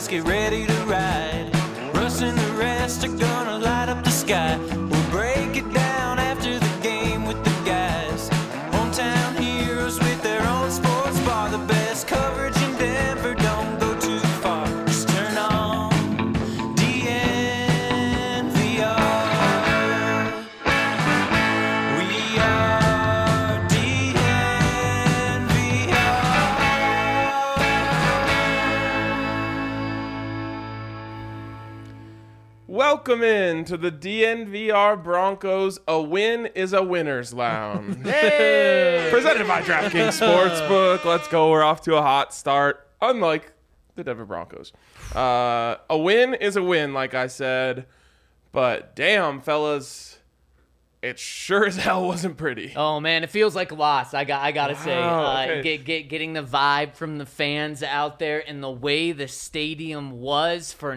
let's get ready to ride. Russ and the rest are gonna light up the sky. We'll break it down after the game with the guys. Hometown heroes with their own sports bar. The best coverage in Denver, don't go too far. Just turn on DNVR. We are DNVR. Welcome in to the DNVR Broncos A Win is a Winner's Lounge. Presented by DraftKings Sportsbook. Let's go. We're off to a hot start, unlike the Denver Broncos. A win is a win, like I said. But damn, fellas, it sure as hell wasn't pretty. Oh man, it feels like a loss. I gotta say, okay. getting the vibe from the fans out there and the way the stadium was for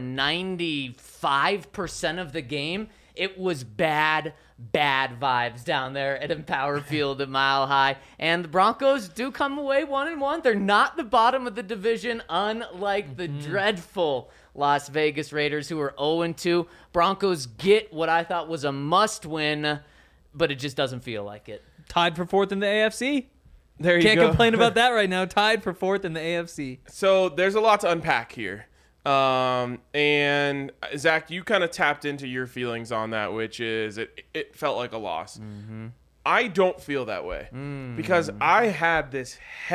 95% of the game, it was bad vibes down there at Empower Field at Mile High. And the Broncos do come away 1-1. They're not the bottom of the division, unlike the dreadful Las Vegas Raiders, who are 0-2. Broncos get what I thought was a must-win, but it just doesn't feel like it. Tied for fourth in the AFC. There you Can't go. complain about that right now. Tied for fourth in the AFC. So there's a lot to unpack here. And Zach, you kind of tapped into your feelings on that, which is it felt like a loss. Mm-hmm. I don't feel that way because I had this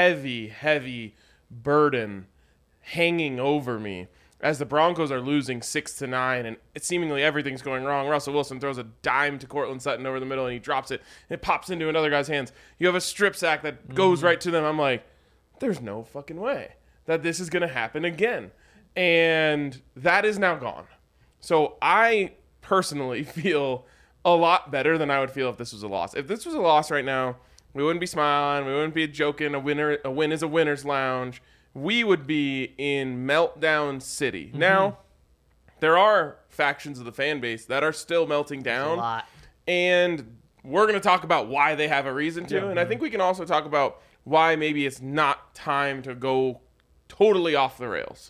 heavy burden hanging over me as the Broncos are losing 6-9 and seemingly everything's going wrong. Russell Wilson throws a dime to Cortland Sutton over the middle and he drops it and it pops into another guy's hands. You have a strip sack that goes right to them. I'm like, there's no fucking way that this is going to happen again. And that is now gone. So I personally feel a lot better than I would feel if this was a loss. If this was a loss right now, we wouldn't be smiling. We wouldn't be joking. A win is a winner's lounge. We would be in meltdown city. Mm-hmm. Now, there are factions of the fan base that are still melting down. A lot. And we're going to talk about why they have a reason to. Yeah. And I think we can also talk about why maybe it's not time to go totally off the rails.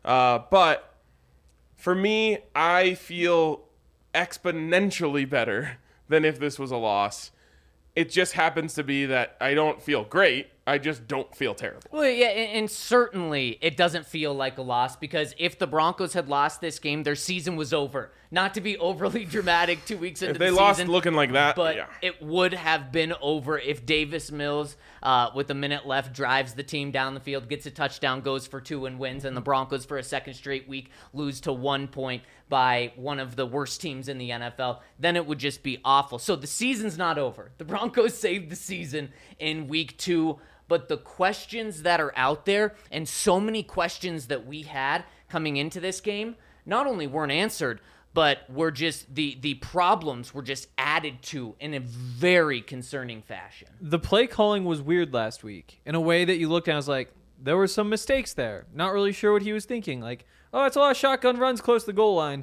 But for me, I feel exponentially better than if this was a loss. It just happens to be that I don't feel great. I just don't feel terrible. Well, yeah, and certainly it doesn't feel like a loss because if the Broncos had lost this game, their season was over. Not to be overly dramatic 2 weeks into the season. If they lost looking like that, but yeah. It would have been over if Davis Mills, with a minute left, drives the team down the field, gets a touchdown, goes for 2 and wins, and the Broncos for a second straight week lose to 1 point by one of the worst teams in the NFL. Then it would just be awful. So the season's not over. The Broncos saved the season in week 2. But the questions that are out there, and so many questions that we had coming into this game, not only weren't answered, but were just the problems were just added to in a very concerning fashion. The play calling was weird last week in a way that you looked at and was like, there were some mistakes there. Not really sure what he was thinking. Like, oh, it's a lot of shotgun runs close to the goal line.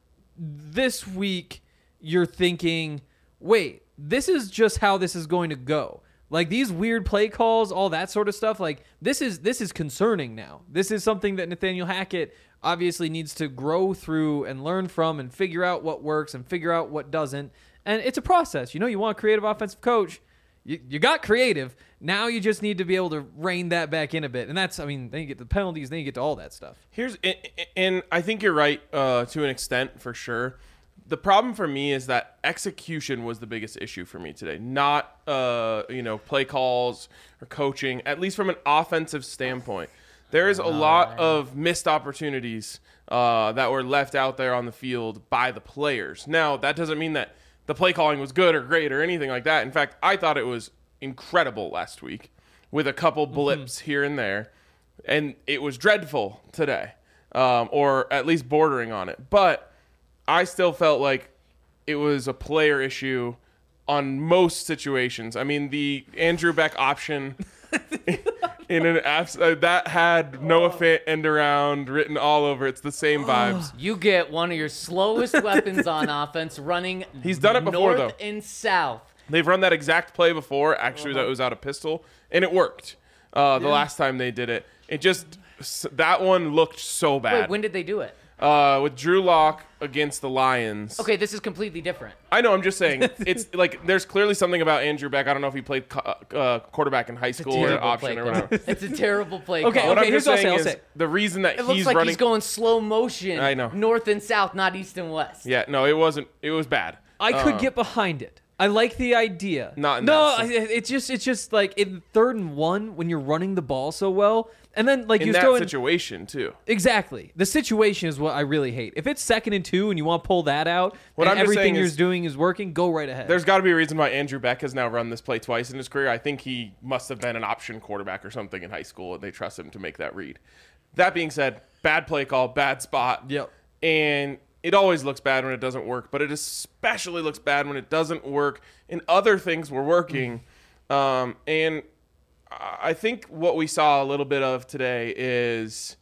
This week, you're thinking, wait, this is just how this is going to go. Like these weird play calls, all that sort of stuff, like this is concerning now. This is something that Nathaniel Hackett obviously needs to grow through and learn from and figure out what works and figure out what doesn't. And it's a process. You know, you want a creative offensive coach. You got creative. Now you just need to be able to rein that back in a bit. And that's, I mean, then you get the penalties, then you get to all that stuff. And I think you're right to an extent for sure. The problem for me is that execution was the biggest issue for me today, not play calls or coaching, at least from an offensive standpoint. There is a lot of missed opportunities that were left out there on the field by the players. Now, that doesn't mean that the play calling was good or great or anything like that. In fact, I thought it was incredible last week with a couple blips here and there, and it was dreadful today, or at least bordering on it. But I still felt like it was a player issue on most situations. I mean, the Andrew Beck option in an that had Noah Fant end around written all over. It's the same vibes. You get one of your slowest weapons on offense running. He's done it before, north though. And south. They've run that exact play before. Actually, that was out of pistol, and it worked. The last time they did it, it just that one looked so bad. Wait, when did they do it? With Drew Lock against the Lions. Okay, this is completely different. I know. I'm just saying. It's like there's clearly something about Andrew Beck. I don't know if he played quarterback in high school or Terrible option play or call. whatever. It's a terrible play Okay, call. What I'm here's just what I'll saying say. is the reason that It looks he's like running. he's going slow motion. I know. North and south, not east and west. Yeah, no, it wasn't. It was bad. I could get behind it. I like the idea. Not in no, that it's just like in 3rd and 1 when you're running the ball so well, and then like In you're that throwing situation too. exactly the situation is what I really hate. If it's 2nd and 2 and you want to pull that out, What and I'm just everything saying you're is- doing is working, go right ahead. There's got to be a reason why Andrew Beck has now run this play twice in his career. I think he must have been an option quarterback or something in high school, and they trust him to make that read. That being said, bad play call, bad spot. Yep. And it always looks bad when it doesn't work, but it especially looks bad when it doesn't work and other things were working. And I think what we saw a little bit of today is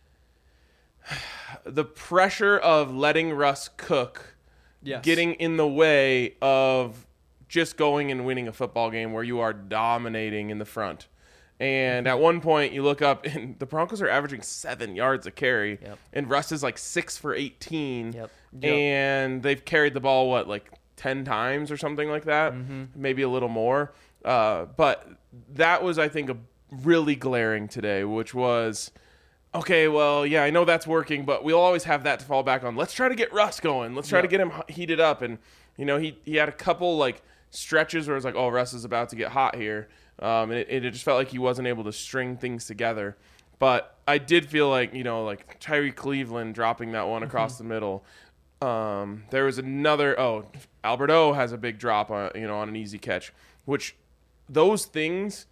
the pressure of letting Russ cook Yes. getting in the way of just going and winning a football game where you are dominating in the front. And at one point, you look up, and the Broncos are averaging 7 yards a carry, Yep. and Russ is like 6 for 18. Yep. And they've carried the ball, like 10 times or something like that, maybe a little more. But that was, I think, a really glaring today, which was, okay, well, yeah, I know that's working, but we'll always have that to fall back on. Let's try to get Russ going. Let's try to get him heated up. And, you know, he had a couple, like, stretches where it was like, oh, Russ is about to get hot here. And it just felt like he wasn't able to string things together. But I did feel like, you know, like Tyree Cleveland dropping that one across the middle. There was another, Alberto has a big drop on an easy catch, which those things,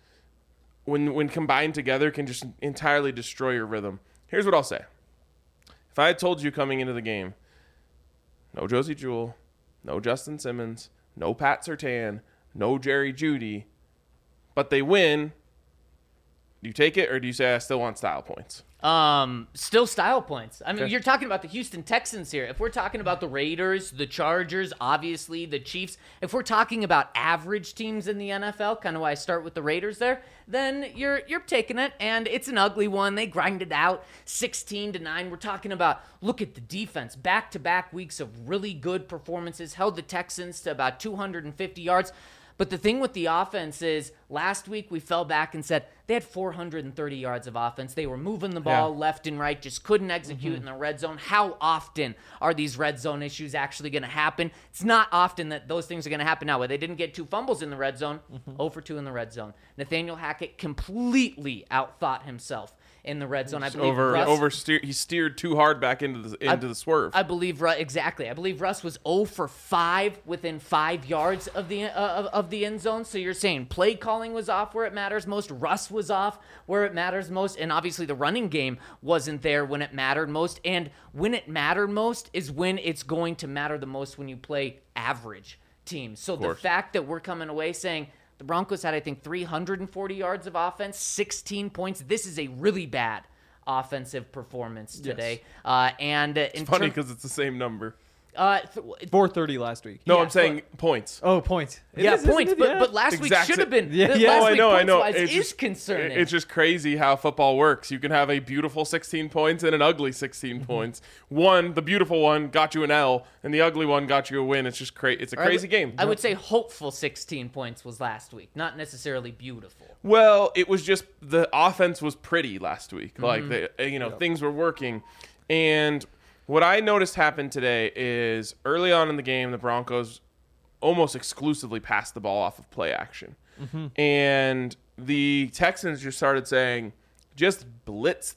when combined together, can just entirely destroy your rhythm. Here's what I'll say. If I had told you coming into the game, no Josie Jewell, no Justin Simmons, no Pat Surtain, no Jerry Jeudy, but they win, do you take it or do you say I still want style points? Still style points. I mean, you're talking about the Houston Texans here. If we're talking about the Raiders, the Chargers, obviously the Chiefs, if we're talking about average teams in the NFL, kind of why I start with the Raiders there, then you're taking it, and it's an ugly one. They grinded out 16-9. We're talking about, look at the defense. Back-to-back weeks of really good performances, held the Texans to about 250 yards. But the thing with the offense is last week we fell back and said they had 430 yards of offense. They were moving the ball left and right, just couldn't execute in the red zone. How often are these red zone issues actually going to happen? It's not often that those things are going to happen now. Where they didn't get 2 fumbles in the red zone, 0 for 2 in the red zone. Nathaniel Hackett completely outthought himself in the red zone. I believe he steered too hard back into the swerve. I believe exactly. I believe Russ was 0 for 5 within 5 yards of the end zone. So you're saying play calling was off where it matters most. Russ was off where it matters most, and obviously the running game wasn't there when it mattered most. And when it mattered most is when it's going to matter the most when you play average teams. So the fact that we're coming away saying the Broncos had, I think, 340 yards of offense, 16 points. This is a really bad offensive performance today. It's funny because it's the same number. 430 last week. No, Yeah, I'm saying points. Oh, points. It Yeah, is, isn't points. it? Yeah. But last week should have been. Yeah. Last week, I know. points-wise, It's is just concerning. It's just crazy how football works. You can have a beautiful 16 points and an ugly 16 points. The beautiful one got you an L, and the ugly one got you a win. It's just crazy. It's a crazy game. I would say hopeful 16 points was last week, not necessarily beautiful. Well, it was just the offense was pretty last week. Like things were working, and what I noticed happen today is early on in the game, the Broncos almost exclusively passed the ball off of play action, and the Texans just started saying, just blitz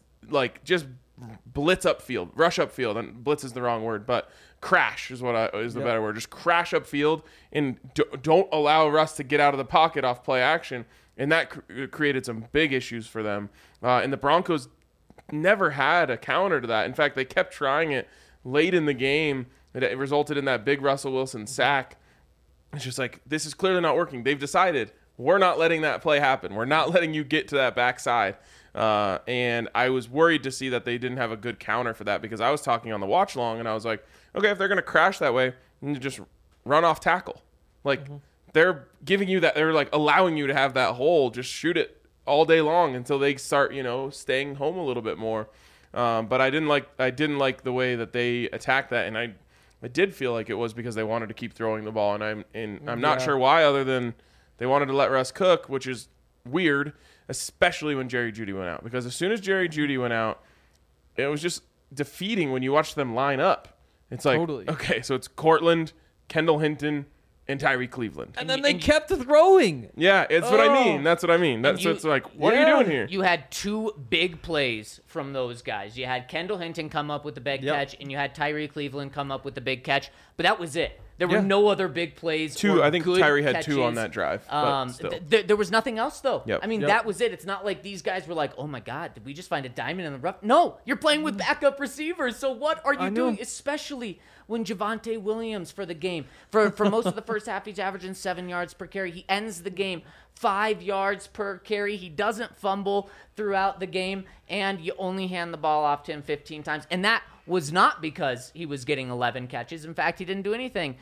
upfield, rush upfield, and blitz is the wrong word, but crash is the better word. Just crash upfield and don't allow Russ to get out of the pocket off play action. And that created some big issues for them. And the Broncos never had a counter to that. In fact, they kept trying it late in the game. It resulted in that big Russell Wilson sack. It's just like, this is clearly not working. They've decided, we're not letting that play happen. We're not letting you get to that backside. And I was worried to see that they didn't have a good counter for that, because I was talking on the watch long, and I was like, okay, if they're going to crash that way, then just run off tackle. Like, they're giving you that, they're like allowing you to have that hole, just shoot it all day long until they start, staying home a little bit more. But I didn't like the way that they attacked that, and I did feel like it was because they wanted to keep throwing the ball, and I'm not sure why, other than they wanted to let Russ cook, which is weird, especially when Jerry Jeudy went out. Because as soon as Jerry Jeudy went out, it was just defeating when you watch them line up. It's like, okay, so it's Cortland, Kendall Hinton, and Tyree Cleveland. And then they kept throwing. Yeah, it's what I mean. That's what I mean. It's like, what are you doing here? You had two big plays from those guys. You had Kendall Hinton come up with the big catch, and you had Tyree Cleveland come up with the big catch. But that was it. There were no other big plays. I think Tyree had two on that drive. But still. There was nothing else, though. Yep. I mean, that was it. It's not like these guys were like, oh, my God, did we just find a diamond in the rough? No, you're playing with backup receivers. So what are you doing? Especially when Javonte Williams for the game. For most of the first half, he's averaging 7 yards per carry. He ends the game 5 yards per carry. He doesn't fumble throughout the game, and you only hand the ball off to him 15 times. And that was not because he was getting 11 catches. In fact, he didn't do anything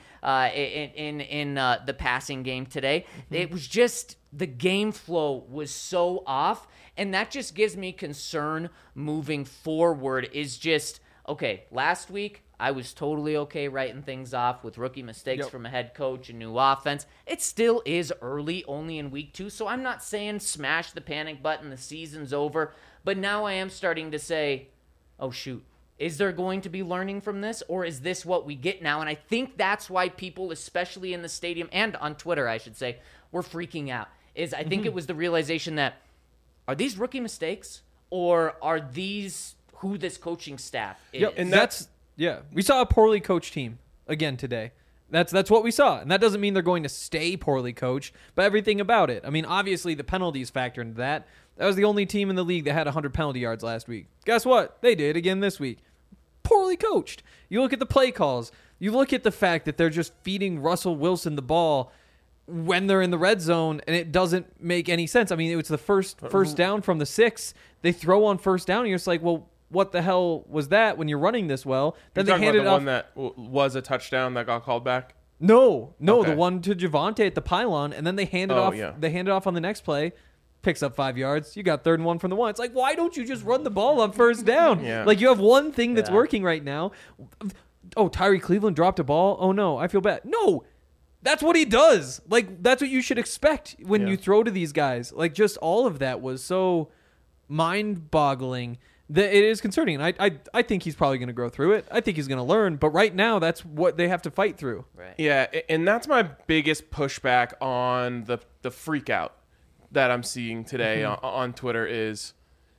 in the passing game today. It was just the game flow was so off, and that just gives me concern moving forward is just, okay, last week I was totally okay writing things off with rookie mistakes from a head coach and new offense. It still is early, only in week 2, so I'm not saying smash the panic button, the season's over, but now I am starting to say, oh, shoot. Is there going to be learning from this, or is this what we get now? And I think that's why people, especially in the stadium and on Twitter, I should say, were freaking out. I think it was the realization that, are these rookie mistakes, or are these who this coaching staff is? Yep, and we saw a poorly coached team again today. That's what we saw, and that doesn't mean they're going to stay poorly coached, but everything about it. I mean, obviously the penalties factor into that. That was the only team in the league that had 100 penalty yards last week. Guess what? They did again this week. Poorly coached. You look at the play calls. You look at the fact that they're just feeding Russell Wilson the ball when they're in the red zone, and it doesn't make any sense. I mean, it was the first down from the 6. They throw on first down, and you're just like, well, what the hell was that when you're running this well? Then they handed off. One that was a touchdown that got called back? No, okay. The one to Javonte at the pylon, and then they handed off. Yeah. They handed off on the next play. Picks up 5 yards. You got 3rd and 1 from the 1. It's like, why don't you just run the ball on first down? Like, you have one thing that's working right now. Oh, Tyree Cleveland dropped a ball. Oh, no, I feel bad. No, that's what he does. Like, that's what you should expect when you throw to these guys. Like, just all of that was so mind-boggling that it is concerning. And I think he's probably going to grow through it. I think he's going to learn. But right now, that's what they have to fight through. Right. Yeah, and that's my biggest pushback on the freak out that I'm seeing today on Twitter is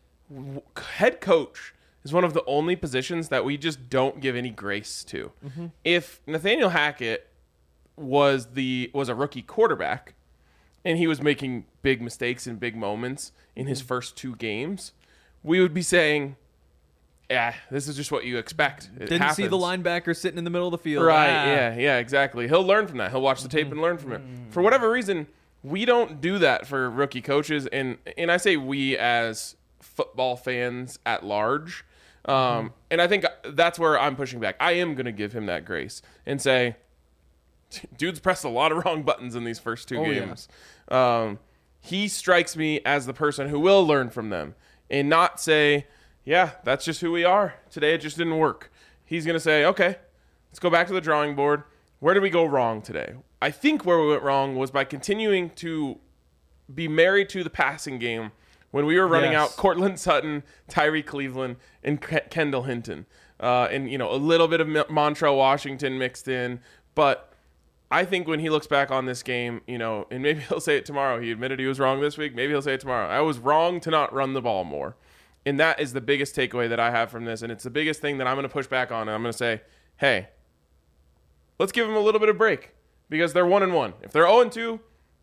head coach is one of the only positions that we just don't give any grace to. If Nathaniel Hackett was a rookie quarterback and he was making big mistakes in big moments in his first 2 games, we would be saying, yeah, this is just what you expect. Didn't see the linebacker sitting in the middle of the field. Right, yeah, exactly. He'll learn from that. He'll watch the tape and learn from it. For whatever reason, we don't do that for rookie coaches, and I say we as football fans at large. And I think that's where I'm pushing back. I am going to give him that grace and say, dude's pressed a lot of wrong buttons in these first 2 games. Yeah. He strikes me as the person who will learn from them and not say, yeah, that's just who we are. Today it just didn't work. He's going to say, okay, let's go back to the drawing board. Where did we go wrong today? I think where we went wrong was by continuing to be married to the passing game when we were running out Cortland Sutton, Tyree Cleveland, and Kendall Hinton. And, a little bit of Montrell Washington mixed in. But I think when he looks back on this game, and maybe he'll say it tomorrow. He admitted he was wrong this week. Maybe he'll say it tomorrow. I was wrong to not run the ball more. And that is the biggest takeaway that I have from this. And it's the biggest thing that I'm going to push back on. And I'm going to say, hey, let's give them a little bit of break because they're 1-1. If they're 0-2,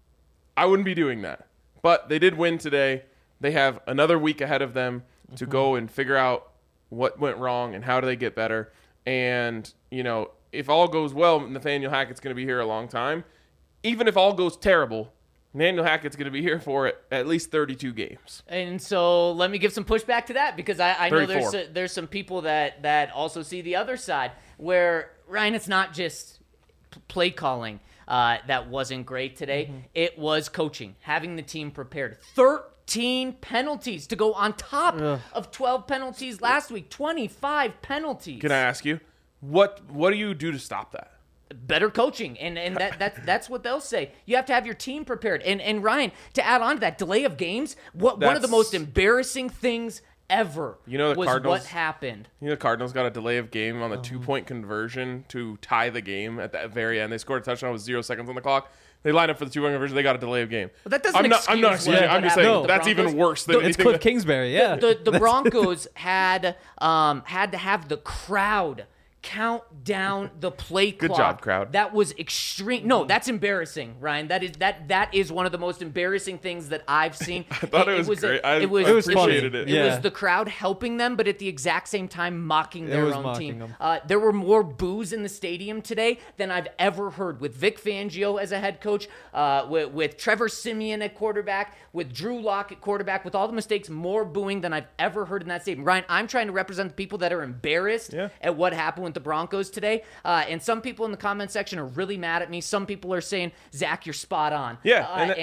I wouldn't be doing that. But they did win today. They have another week ahead of them to go and figure out what went wrong and how do they get better. And, if all goes well, Nathaniel Hackett's going to be here a long time. Even if all goes terrible, Nathaniel Hackett's going to be here for at least 32 games. And so let me give some pushback to that because I know there's some people that also see the other side where, Ryan, it's not just play calling that wasn't great today. It was coaching, having the team prepared. 13 penalties to go on top of 12 penalties last week. 25 penalties. Can I ask you, what do you do to stop that? Better coaching, and that's what they'll say. You have to have your team prepared. And Ryan, to add on to that, delay of games, one of the most embarrassing things ever the was Cardinals, what happened. The Cardinals got a delay of game on the 2-point conversion to tie the game at the very end. They scored a touchdown with 0 seconds on the clock. They lined up for the 2-point conversion. They got a delay of game. But that doesn't I'm not excusing it. I'm just saying that's even worse than It's anything. Cliff Kingsbury, yeah. The Broncos had to have the crowd count down the play clock. Good job, crowd. That was extreme. No, that's embarrassing, Ryan. That is one of the most embarrassing things that I've seen. I thought it was great. I appreciated it. It was the crowd helping them, but at the exact same time mocking their own team. them. There were more boos in the stadium today than I've ever heard. With Vic Fangio as a head coach, with Trevor Siemian at quarterback, with Drew Lock at quarterback, with all the mistakes, more booing than I've ever heard in that stadium. Ryan, I'm trying to represent the people that are embarrassed at what happened with the Broncos today. And some people in the comment section are really mad at me. Some people are saying, Zach, you're spot on. Yeah.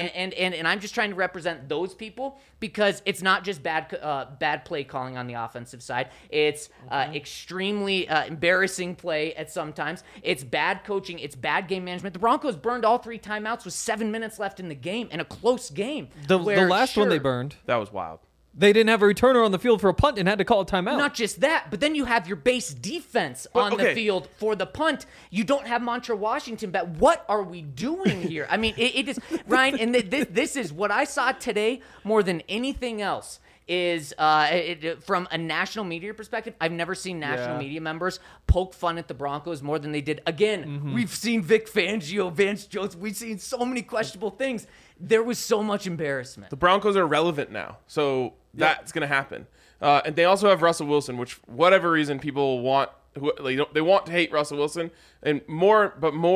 And I'm just trying to represent those people because it's not just bad play calling on the offensive side. It's extremely embarrassing play at sometimes. It's bad coaching. It's bad game management. The Broncos burned all 3 timeouts with 7 minutes left in the game and a close game. The last one they burned, That was wild. they didn't have a returner on the field for a punt and had to call a timeout. Not just that, but then you have your base defense on the field for the punt. You don't have Montre Washington back. What are we doing here? I mean, it is, Ryan, and this is what I saw today more than anything else is from a national media perspective. I've never seen national media members poke fun at the Broncos more than they did. Again, we've seen Vic Fangio, Vance Joseph. We've seen so many questionable things. There was so much embarrassment. The Broncos are relevant now, so that's going to happen. And they also have Russell Wilson, which whatever reason people want, they want to hate Russell Wilson, and more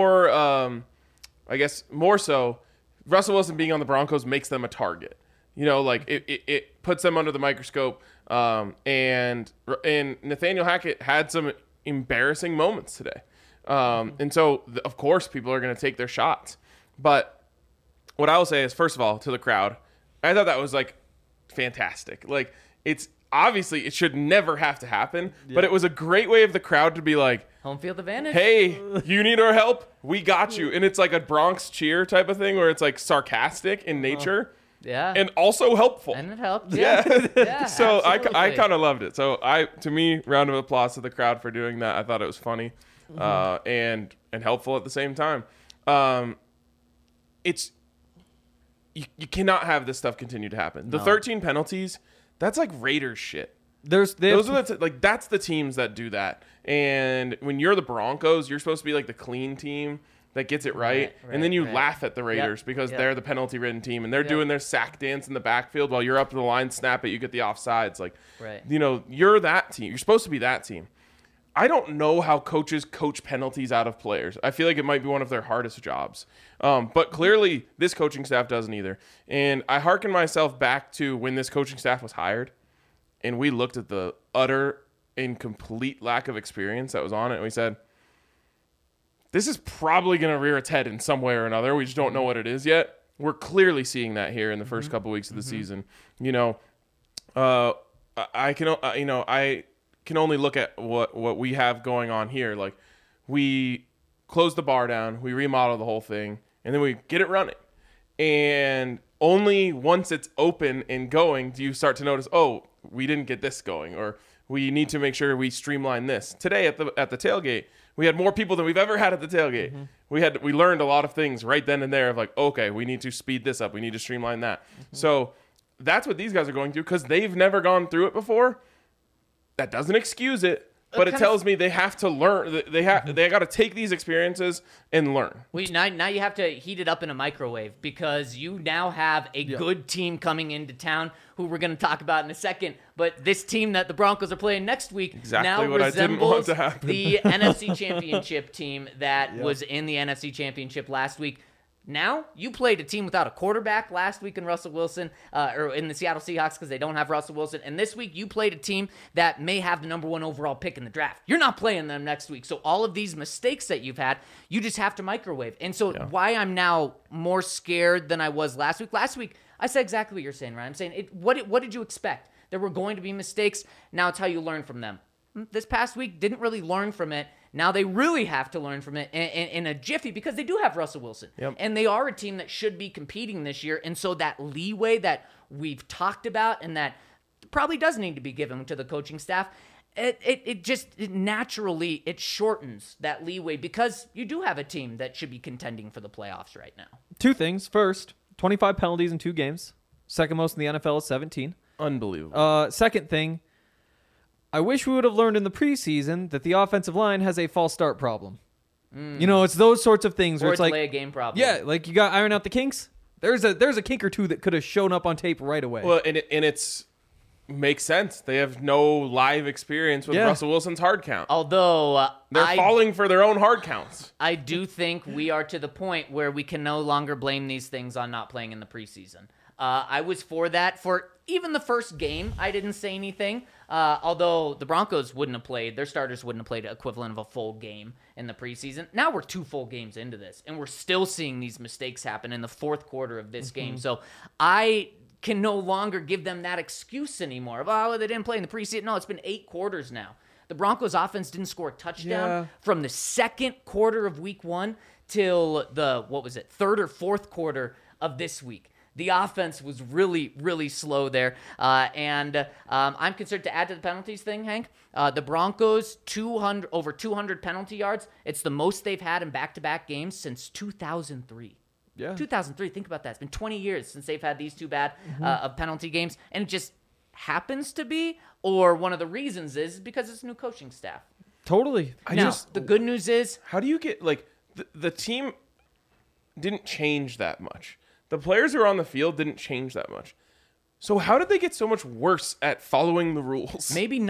so, Russell Wilson being on the Broncos makes them a target. It puts them under the microscope. And Nathaniel Hackett had some embarrassing moments today. And so, of course, people are going to take their shots. But what I will say is, first of all, to the crowd, I thought that was fantastic. It's obviously it should never have to happen, but it was a great way of the crowd to be like, home field advantage. Hey, you need our help? We got you. And it's like a Bronx cheer type of thing where it's sarcastic in nature. Yeah. And also helpful. And it helped. Yeah. So absolutely. I kind of loved it. So to me, round of applause to the crowd for doing that. I thought it was funny and helpful at the same time. You cannot have this stuff continue to happen. The 13 penalties, that's like Raiders shit. That's the teams that do that. And when you're the Broncos, you're supposed to be the clean team that gets it right. And then you laugh at the Raiders because they're the penalty-ridden team and they're doing their sack dance in the backfield while you're up to the line, snap it, you get the offsides. You're that team. You're supposed to be that team. I don't know how coaches coach penalties out of players. I feel like it might be one of their hardest jobs. But clearly, this coaching staff doesn't either. And I hearken myself back to when this coaching staff was hired, and we looked at the utter and complete lack of experience that was on it, and we said, this is probably going to rear its head in some way or another. We just don't know what it is yet. We're clearly seeing that here in the first couple weeks of the season. I can only look at what we have going on here. We close the bar down, we remodel the whole thing, and then we get it running. And only once it's open and going do you start to notice, oh, we didn't get this going, or we need to make sure we streamline this. Today at the tailgate, we had more people than we've ever had at the tailgate. We learned a lot of things right then and there of okay, we need to speed this up, we need to streamline that. So that's what these guys are going through because they've never gone through it before. That doesn't excuse it, but it tells me they have to learn. They got to take these experiences and learn. Now you have to heat it up in a microwave because you now have a good team coming into town who we're going to talk about in a second. But this team that the Broncos are playing next week now resembles the NFC Championship team that was in the NFC Championship last week. Now, you played a team without a quarterback last week in Russell Wilson, or in the Seattle Seahawks because they don't have Russell Wilson. And this week, you played a team that may have the number 1 overall pick in the draft. You're not playing them next week. So all of these mistakes that you've had, you just have to microwave. And so why I'm now more scared than I was last week. Last week, I said exactly what you're saying, Ryan. I'm saying, what did you expect? There were going to be mistakes. Now it's how you learn from them. This past week, didn't really learn from it. Now they really have to learn from it in a jiffy because they do have Russell Wilson. Yep. And they are a team that should be competing this year. And so that leeway that we've talked about and that probably does need to be given to the coaching staff, it naturally shortens that leeway because you do have a team that should be contending for the playoffs right now. 2 things. First, 25 penalties in 2 games. Second most in the NFL is 17. Unbelievable. Second thing, I wish we would have learned in the preseason that the offensive line has a false start problem. You know, it's those sorts of things Or where a it's like, delay a game problem. yeah, like you got to iron out the kinks. There's a kink or two that could have shown up on tape right away. Well, and it's makes sense. They have no live experience with Yeah. Russell Wilson's hard count. Although They're falling for their own hard counts. I do think we are to the point where we can no longer blame these things on not playing in the preseason. I was for that for even the first game. I didn't say anything. Although the Broncos wouldn't have played, their starters wouldn't have played the equivalent of a full game in the preseason. Now we're 2 full games into this, and we're still seeing these mistakes happen in the fourth quarter of this game. So I can no longer give them that excuse anymore. Oh, they didn't play in the preseason. No, it's been 8 quarters now. The Broncos offense didn't score a touchdown from the second quarter of week 1 till the, third or fourth quarter of this week. The offense was really, really slow there. And I'm concerned to add to the penalties thing, Hank. The Broncos, over 200 penalty yards. It's the most they've had in back-to-back games since 2003. Yeah. 2003, think about that. It's been 20 years since they've had these 2 bad of penalty games. And it just happens to be, or one of the reasons is because it's a new coaching staff. Totally. The good news is, How do you get, like, the team didn't change that much. The players who are on the field didn't change that much. So how did they get so much worse at following the rules? maybe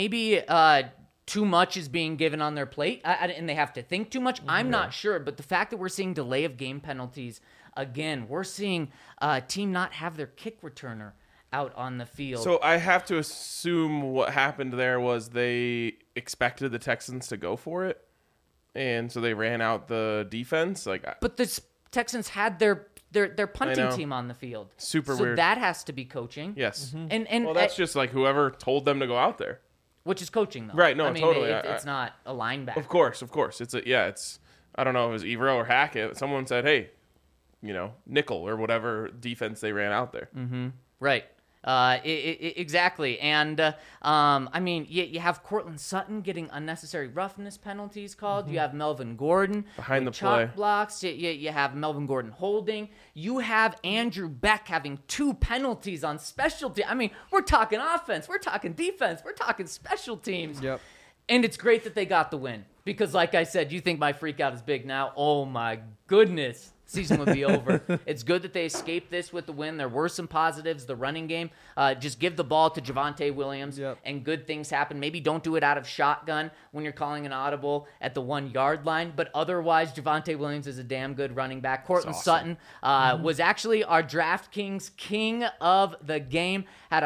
too much is being given on their plate, and they have to think too much. I'm not sure, but the fact that we're seeing delay of game penalties again, we're seeing a team not have their kick returner out on the field. So I have to assume what happened there was they expected the Texans to go for it, and so they ran out the defense. But the Texans had their punting team on the field. Super so weird. That has to be coaching. Yes. And Well, that's just like whoever told them to go out there. which is coaching though. Right, no, I mean, totally. It's not a linebacker. Of course. It's I don't know if it was Evero or Hackett. Someone said, hey, nickel or whatever defense they ran out there. Right. Exactly. And, I mean, you have Cortland Sutton getting unnecessary roughness penalties called. You have Melvin Gordon Behind with the chalk play. blocks. You have Melvin Gordon holding. You have Andrew Beck having 2 penalties on special teams. I mean, we're talking offense. We're talking defense. We're talking special teams. Yep. And it's great that they got the win. Because, like I said, you think my freak out is big now. Oh, my goodness. Season would be over. It's good that they escaped this with the win. There were some positives. The running game, just give the ball to Javonte Williams, and good things happen. Maybe don't do it out of shotgun when you're calling an audible at the 1-yard line, but otherwise, Javonte Williams is a damn good running back. Cortland Sutton was actually our DraftKings king of the game. Had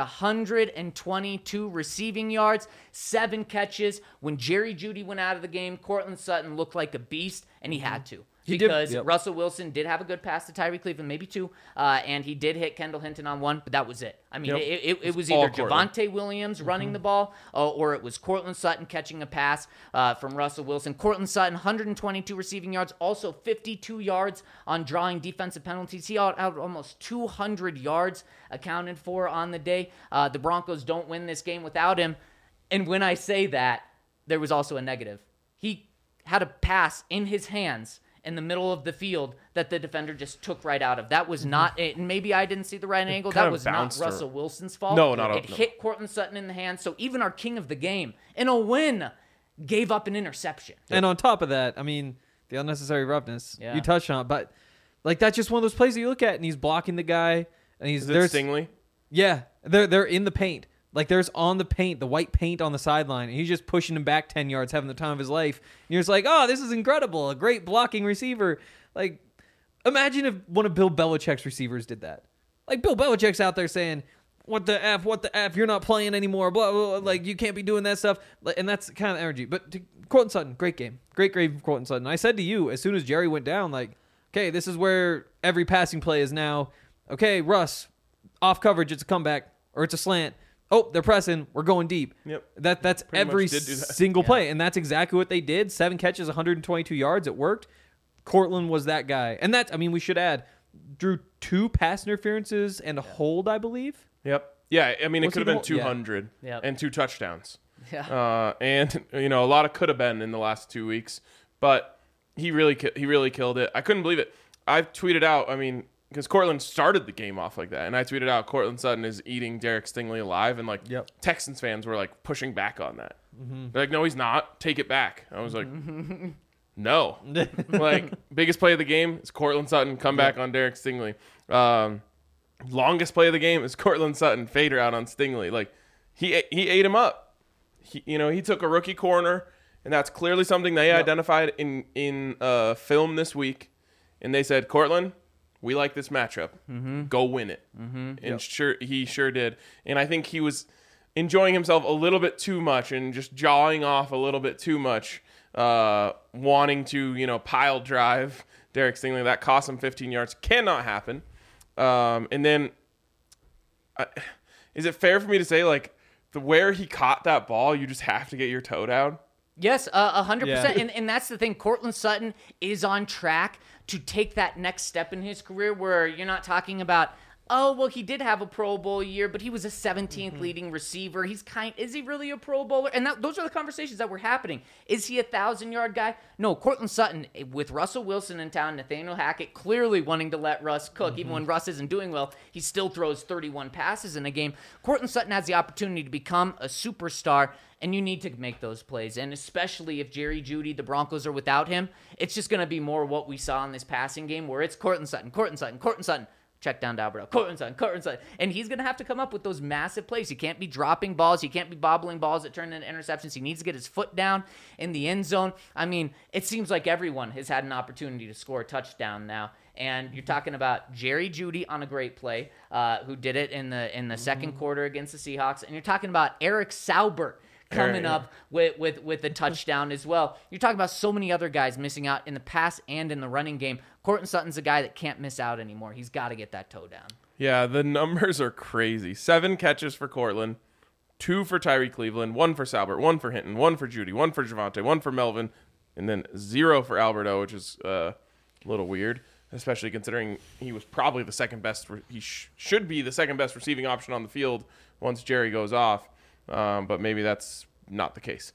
122 receiving yards, 7 catches. When Jerry Jeudy went out of the game, Cortland Sutton looked like a beast, and he had to. Because Russell Wilson did have a good pass to Tyree Cleveland, maybe 2, and he did hit Kendall Hinton on 1, but that was it. I mean, it was either Javonte Williams running the ball, or it was Cortland Sutton catching a pass from Russell Wilson. Cortland Sutton, 122 receiving yards, also 52 yards on drawing defensive penalties. He out almost 200 yards accounted for on the day. The Broncos don't win this game without him, and when I say that, there was also a negative. He had a pass in his hands in the middle of the field that the defender just took right out of. That was not it. Maybe I didn't see the right angle. That was not Russell Wilson's fault. No, It hit Cortland Sutton in the hand. So even our king of the game, in a win, gave up an interception. And on top of that, I mean, the unnecessary roughness, Yeah. you touched on it, but like that's just one of those plays that you look at and he's blocking the guy and he's Is it Stingley? Yeah, they're in the paint. Like there's on the paint, the white paint on the sideline, and he's just pushing him back 10 yards, having the time of his life. And you're just like, oh, this is incredible. A great blocking receiver. Like, Imagine if one of Bill Belichick's receivers did that. Like, Bill Belichick's out there saying, what the F, you're not playing anymore, blah, blah, blah, like, you can't be doing that stuff. And that's kind of energy. But to Courtland Sutton, great game. Great from Courtland Sutton. I said to you, as soon as Jerry went down, like, okay, this is where every passing play is now. Okay, Russ, off coverage, it's a comeback, or it's a slant. Oh, they're pressing. We're going deep. Yep. That's Pretty every much did do that. single play, and that's exactly what they did. 7 catches, 122 yards. It worked. Courtland was that guy. And that's, I mean, we should add, drew 2 pass interferences and a hold, I believe. Yep. Yeah, I mean, it Was could he have been the- 200 Yep. and 2 touchdowns. Yeah. And, a lot of could have been in the last 2 weeks. But he really killed it. I couldn't believe it. I tweeted out, I mean, because Courtland started the game off like that. And I tweeted out, Courtland Sutton is eating Derek Stingley alive. And, like, Yep. Texans fans were, like, pushing back on that. They're like, no, he's not. Take it back. I was like, no. Like, biggest play of the game is Courtland Sutton. Come back on Derek Stingley. Longest play of the game is Courtland Sutton. Fader out on Stingley. Like, he ate him up. He took a rookie corner, and that's clearly something they identified in film this week. And they said, Courtland, we like this matchup. Go win it. And he sure did. And I think he was enjoying himself a little bit too much and just jawing off a little bit too much, wanting to, pile drive Derek Stingley. That cost him 15 yards. Cannot happen. And then, is it fair for me to say, like, where he caught that ball, you just have to get your toe down? Yes, 100%. Yeah. And that's the thing. Courtland Sutton is on track to take that next step in his career where you're not talking about, oh, well, he did have a Pro Bowl year, but he was a 17th leading receiver. Is he really a Pro Bowler? And those are the conversations that were happening. Is he a 1,000-yard guy? No, Courtland Sutton, with Russell Wilson in town, Nathaniel Hackett clearly wanting to let Russ cook. Even when Russ isn't doing well, he still throws 31 passes in a game. Courtland Sutton has the opportunity to become a superstar, and you need to make those plays. And especially if Jerry Jeudy, the Broncos, are without him, it's just going to be more what we saw in this passing game where it's Courtland Sutton. Check down to Alberto. Courtland Sutton. And he's going to have to come up with those massive plays. He can't be dropping balls. He can't be bobbling balls that turn into interceptions. He needs to get his foot down in the end zone. I mean, it seems like everyone has had an opportunity to score a touchdown now. And you're talking about Jerry Jeudy on a great play, who did it in the second quarter against the Seahawks. And you're talking about Eric Saubert coming up with a touchdown as well. You're talking about so many other guys missing out in the pass and in the running game. Courtland Sutton's a guy that can't miss out anymore. He's got to get that toe down. Yeah, the numbers are crazy. 7 catches for Courtland, 2 for Tyree Cleveland, 1 for Saubert, 1 for Hinton, 1 for Jeudy, 1 for Javonte, 1 for Melvin, and then 0 for Alberto, which is a little weird, especially considering he was probably the second best. He should be the second best receiving option on the field once Jerry goes off, but maybe that's not the case.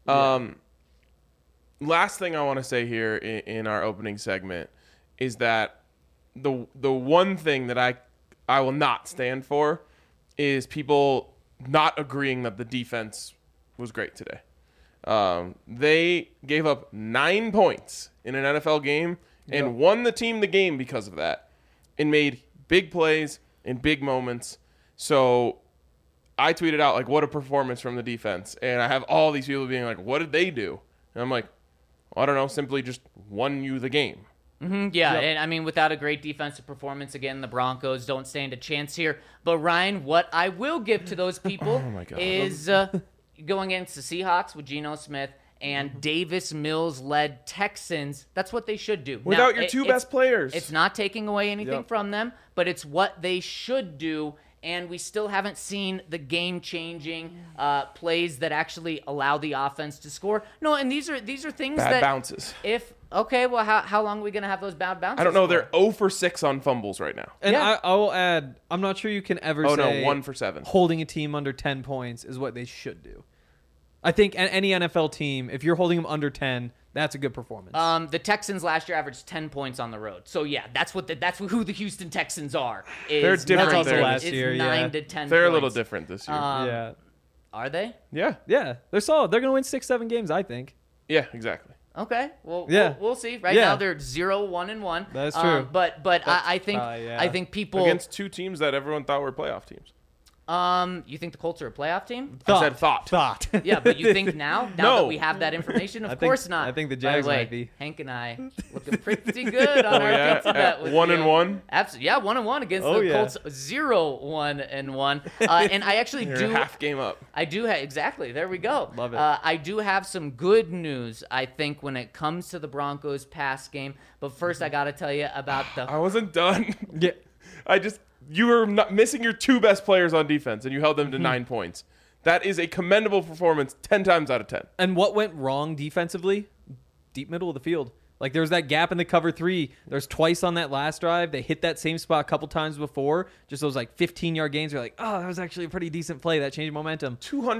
Last thing I want to say here in our opening segment is that the one thing that I will not stand for is people not agreeing that the defense was great today. They gave up 9 points in an NFL game and won the team the game because of that and made big plays in big moments. So I tweeted out, like, what a performance from the defense. And I have all these people being like, what did they do? And I'm like, well, I don't know, simply just won you the game. Yeah, and I mean, without a great defensive performance, again, the Broncos don't stand a chance here. But Ryan, what I will give to those people is going against the Seahawks with Geno Smith and Davis Mills-led Texans. That's what they should do. Without Now, your two best players. It's not taking away anything from them, but it's what they should do. And we still haven't seen the game-changing plays that actually allow the offense to score. No, and these are things Bad bounces. Well, how long are we going to have those bad bounces? I don't know. for? They're 0 for 6 on fumbles right now. And Yeah. I will add, I'm not sure you can ever Oh, say no, 1 for 7. holding a team under 10 points is what they should do. I think any NFL team, if you're holding them under 10, that's a good performance. The Texans last year averaged 10 points on the road. So yeah, that's who the Houston Texans are. They're different. That's also there. last is year, 9 to 10 They're points. a little different this year. yeah. Are they? Yeah, They're solid. They're going to win 6-7 games, I think. yeah, exactly. Okay. Well, Yeah. we'll see. Right Yeah. now they're 0-1-1. That is true. But I think yeah. I think people Against 2 teams that everyone thought were playoff teams. You think the Colts are a playoff team? I said thought. Yeah, but you think now No. that we have that information? Of course not. I think the By Jags way, might be. Hank and I looking pretty good on our yeah, pizza bet. With 1-1? Absolutely, yeah, 1-1 against Oh, the yeah. Colts. 0-1-1. And I actually You're half game up. I do have exactly. There we go. Love it. I do have some good news. I think when it comes to the Broncos pass game. But first, I got to tell you about the. I wasn't done. Yeah. You were not missing your 2 best players on defense, and you held them to 9 points. That is a commendable performance 10 times out of 10. And what went wrong defensively? Deep middle of the field. Like, there was that gap in the cover 3. There's twice on that last drive. They hit that same spot a couple times before. Just those, 15-yard gains. You're like, oh, that was actually a pretty decent play. That changed momentum.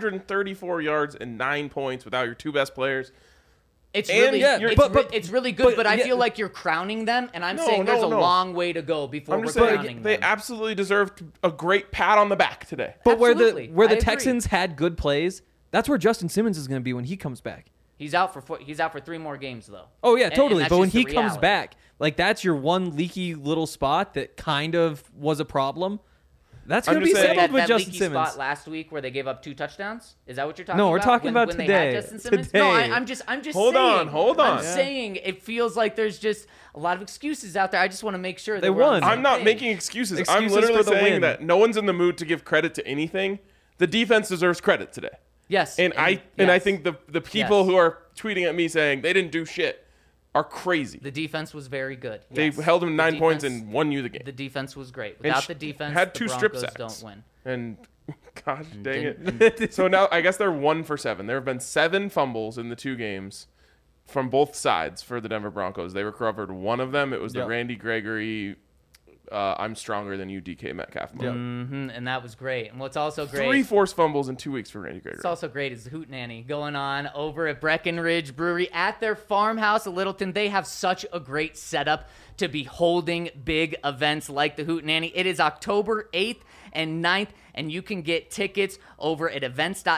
234 yards and 9 points without your 2 best players. It's And really, yeah, it's really good, but I yeah. feel like you're crowning them, and I'm No, saying there's no, a no. long way to go before I'm we're just crowning saying them. they absolutely deserved a great pat on the back today. But where Absolutely. the I agree. Texans had good plays, that's where Justin Simmons is going to be when he comes back. He's out for 3 more games though. Oh, yeah, And totally. that's But when just the he comes reality. back, that's your one leaky little spot that kind of was a problem. That's I'm going to be just saying- settled with that Justin leaky Simmons. spot last week where they gave up 2 touchdowns. Is that what you're talking No, about? we're talking about when today. They had Justin Simmons? Today. No, I'm just Hold saying. on. I'm Yeah. saying it feels like there's just a lot of excuses out there. I just want to make sure They that we're on won. the I'm same not page. making excuses. I'm Excuses literally for the saying win. that no one's in the mood to give credit to anything. The defense deserves credit today. Yes, And I yes. think the people Yes. who are tweeting at me saying they didn't do shit are crazy. the defense was very good. They Yes. held them The 9 points defense- and won you the game. The defense was great. And Without the defense, had the 2 strip Broncos sacks. don't win. And gosh dang it. So now I guess they're 1 for 7. There have been 7 fumbles in the 2 games from both sides for the Denver Broncos. They recovered one of them. It was the Yep. Randy Gregory I'm stronger than you DK Metcalf mode. And that was great. And what's also great 3 forced fumbles in 2 weeks for Randy Gregory. What's also great is the Hootenanny going on over at Breckenridge Brewery at their farmhouse at Littleton. They have such a great setup to be holding big events like the Hootenanny. It is October 8th and 9th, and you can get tickets over at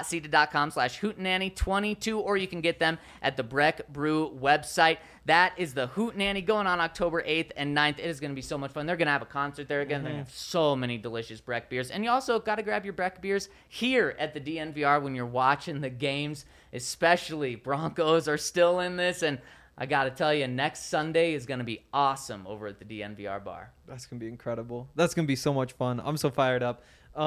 events.seated.com/hootenanny22, or you can get them at the Breck Brew website. That is the Hootenanny going on October 8th and 9th. It is going to be so much fun. They're going to have a concert there again. They're going to have so many delicious Breck beers. And you also got to grab your Breck beers here at the DNVR when you're watching the games, especially Broncos are still in this. And I got to tell you, next Sunday is going to be awesome over at the DNVR bar. That's going to be incredible. That's going to be so much fun. I'm so fired up.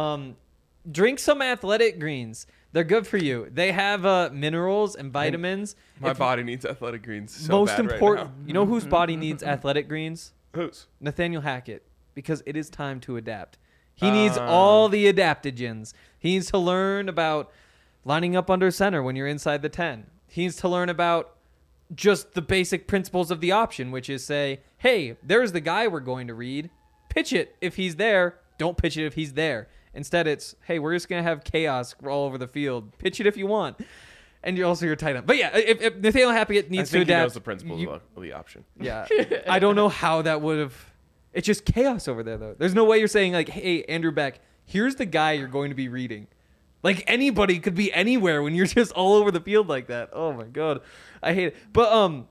Drink some Athletic Greens. They're good for you. They have minerals and vitamins. My body needs Athletic Greens so Most bad important, right you know whose body needs Athletic Greens? now. Whose? Nathaniel Hackett, because it is time to adapt. He needs all the adaptogens. He needs to learn about lining up under center when you're inside the 10. He needs to learn about just the basic principles of the option, which is say, hey, there's the guy we're going to read. Pitch it if he's there. Don't pitch it if he's there. Instead, it's, hey, we're just going to have chaos all over the field. Pitch it if you want. And you're also your tight end. But yeah, if Nathaniel Hackett I needs to think he adapt. knows the principles of the option. Yeah. I don't know how that would have. It's just chaos over there, though. There's no way you're saying, like, hey, Andrew Beck, here's the guy you're going to be reading. Like, anybody could be anywhere when you're just all over the field like that. Oh, my God. I hate it. But,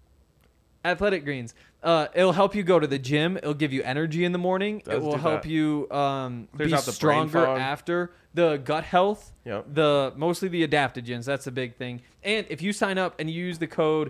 Athletic Greens. It'll help you go to the gym. It'll give you energy in the morning. Does It will do help that. you Clears be out the brain stronger fog. after. The gut health. Yep. Mostly the adaptogens. That's the big thing. And if you sign up and you use the code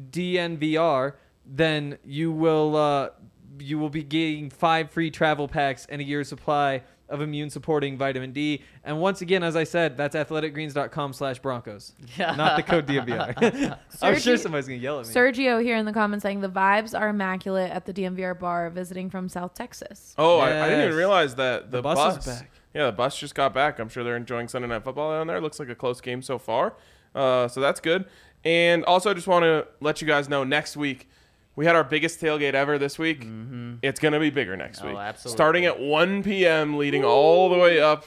DNVR, then you will be getting 5 free travel packs and a year's supply of immune supporting vitamin D. And once again, as I said, that's athleticgreens.com/Broncos. Not the code DNVR. I'm sure somebody's going to yell at me. Sergio here in the comments saying the vibes are immaculate at the DMVR bar visiting from South Texas. Oh, I didn't even Yes. realize that the bus is back. Yeah, the bus just got back. I'm sure they're enjoying Sunday Night Football down there. Looks like a close game so far. So that's good. And also, I just want to let you guys know next week, we had our biggest tailgate ever this week. It's going to be bigger next week. Absolutely. Starting at 1 p.m., leading all the way up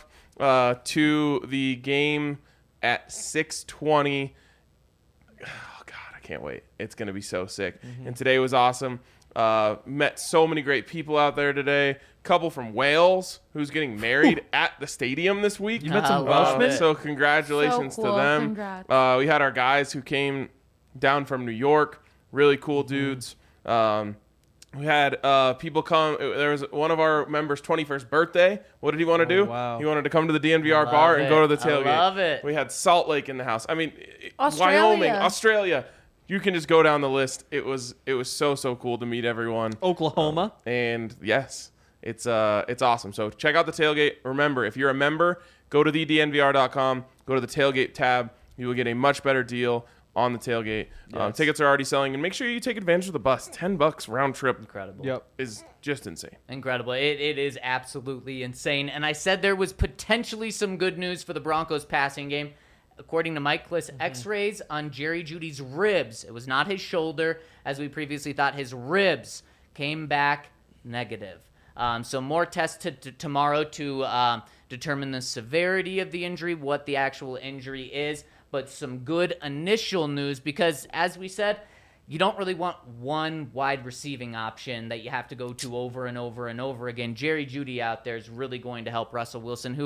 to the game at 6:20. Oh, God, I can't wait. It's going to be so sick. And today was awesome. Met so many great people out there today. Couple from Wales who's getting married at the stadium this week. You met some Love Welshmen? it. So congratulations So to cool. them. Congrats. We had our guys who came down from New York, really cool dudes. We had people come. There was one of our members' 21st birthday. What did he want to do? wow. He wanted to come to the DNVR Love bar and it. go to the tailgate. I love it. We had Salt Lake in the house. I mean, Australia. Wyoming, Australia. You can just go down the list. It was so cool to meet everyone. Oklahoma. And yes, it's awesome. So check out the tailgate. Remember, if you're a member, go to thednvr.com. Go to the tailgate tab. You will get a much better deal on the tailgate. Yes. Tickets are already selling, and make sure you take advantage of the bus. $10 round trip Incredible. Yep. is just insane. Incredible. It is absolutely insane. And I said there was potentially some good news for the Broncos passing game. According to Mike Kliss, x-rays on Jerry Jeudy's ribs. It was not his shoulder, as we previously thought. His ribs came back negative. So more tests tomorrow to determine the severity of the injury, what the actual injury is. But some good initial news because, as we said, you don't really want one wide receiving option that you have to go to over and over and over again. Jerry Jeudy out there is really going to help Russell Wilson,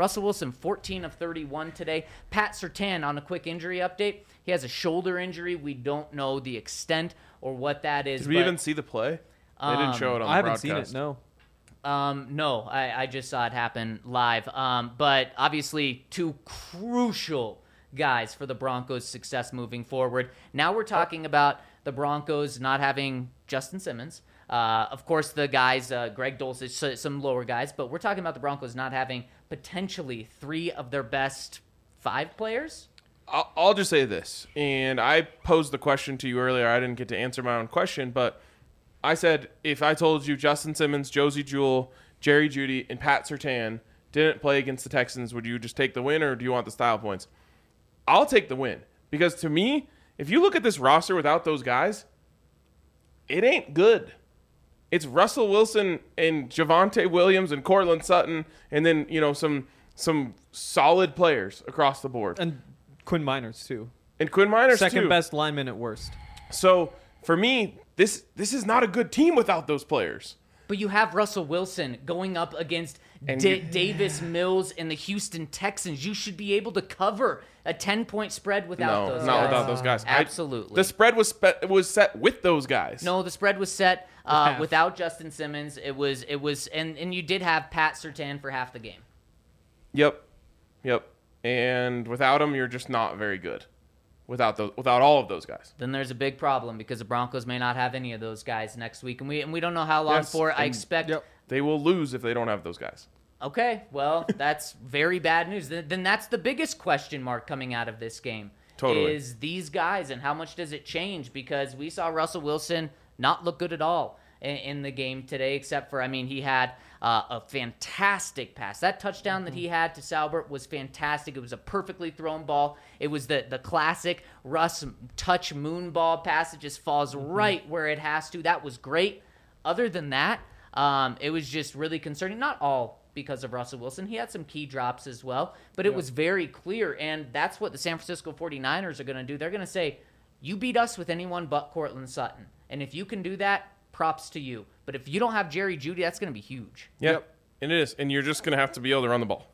14 of 31 today. Pat Surtain on a quick injury update. He has a shoulder injury. We don't know the extent or what that is. Did we even see the play? They didn't show it on the I haven't broadcast. seen it. No. No, I just saw it happen live. But obviously, two crucial guys for the Broncos' success moving forward. Now we're talking about the Broncos not having Justin Simmons. Of course, the guys, Greg Dulcich, some lower guys, but we're talking about the Broncos not having potentially 3 of their best 5 players. I'll just say this, and I posed the question to you earlier. I didn't get to answer my own question, but I said if I told you Justin Simmons, Josie Jewell, Jerry Jeudy, and Pat Surtain didn't play against the Texans, would you just take the win or do you want the style points? I'll take the win because to me, if you look at this roster without those guys, it ain't good. It's Russell Wilson and Javonte Williams and Cortland Sutton and then, some solid players across the board. And Quinn Miners, too. And Quinn Miners, Second too. best lineman at worst. So, for me, this is not a good team without those players. But you have Russell Wilson going up against Davis Mills and the Houston Texans. You should be able to cover a 10-point spread without those guys. Not without those guys. Absolutely. The spread was set with those guys. No, the spread was set without Justin Simmons. It was, and you did have Pat Surtain for half the game. Yep. And without him, you're just not very good. Without all of those guys. Then there's a big problem because the Broncos may not have any of those guys next week, and we don't know how long for. I expect they will lose if they don't have those guys. Okay, well, that's very bad news. Then that's the biggest question mark coming out of this game. Totally. Is these guys, and how much does it change? Because we saw Russell Wilson not look good at all in the game today, except for, he had a fantastic pass. That touchdown that he had to Salbert was fantastic. It was a perfectly thrown ball. It was the classic Russ touch moon ball pass. It just falls right where it has to. That was great. Other than that, it was just really concerning. Not all because of Russell Wilson. He had some key drops as well, but it was very clear, and that's what the San Francisco 49ers are going to do. They're going to say, you beat us with anyone but Cortland Sutton, and if you can do that, props to you. But if you don't have Jerry Jeudy, that's going to be huge. Yep. And it is. And you're just going to have to be able to run the ball.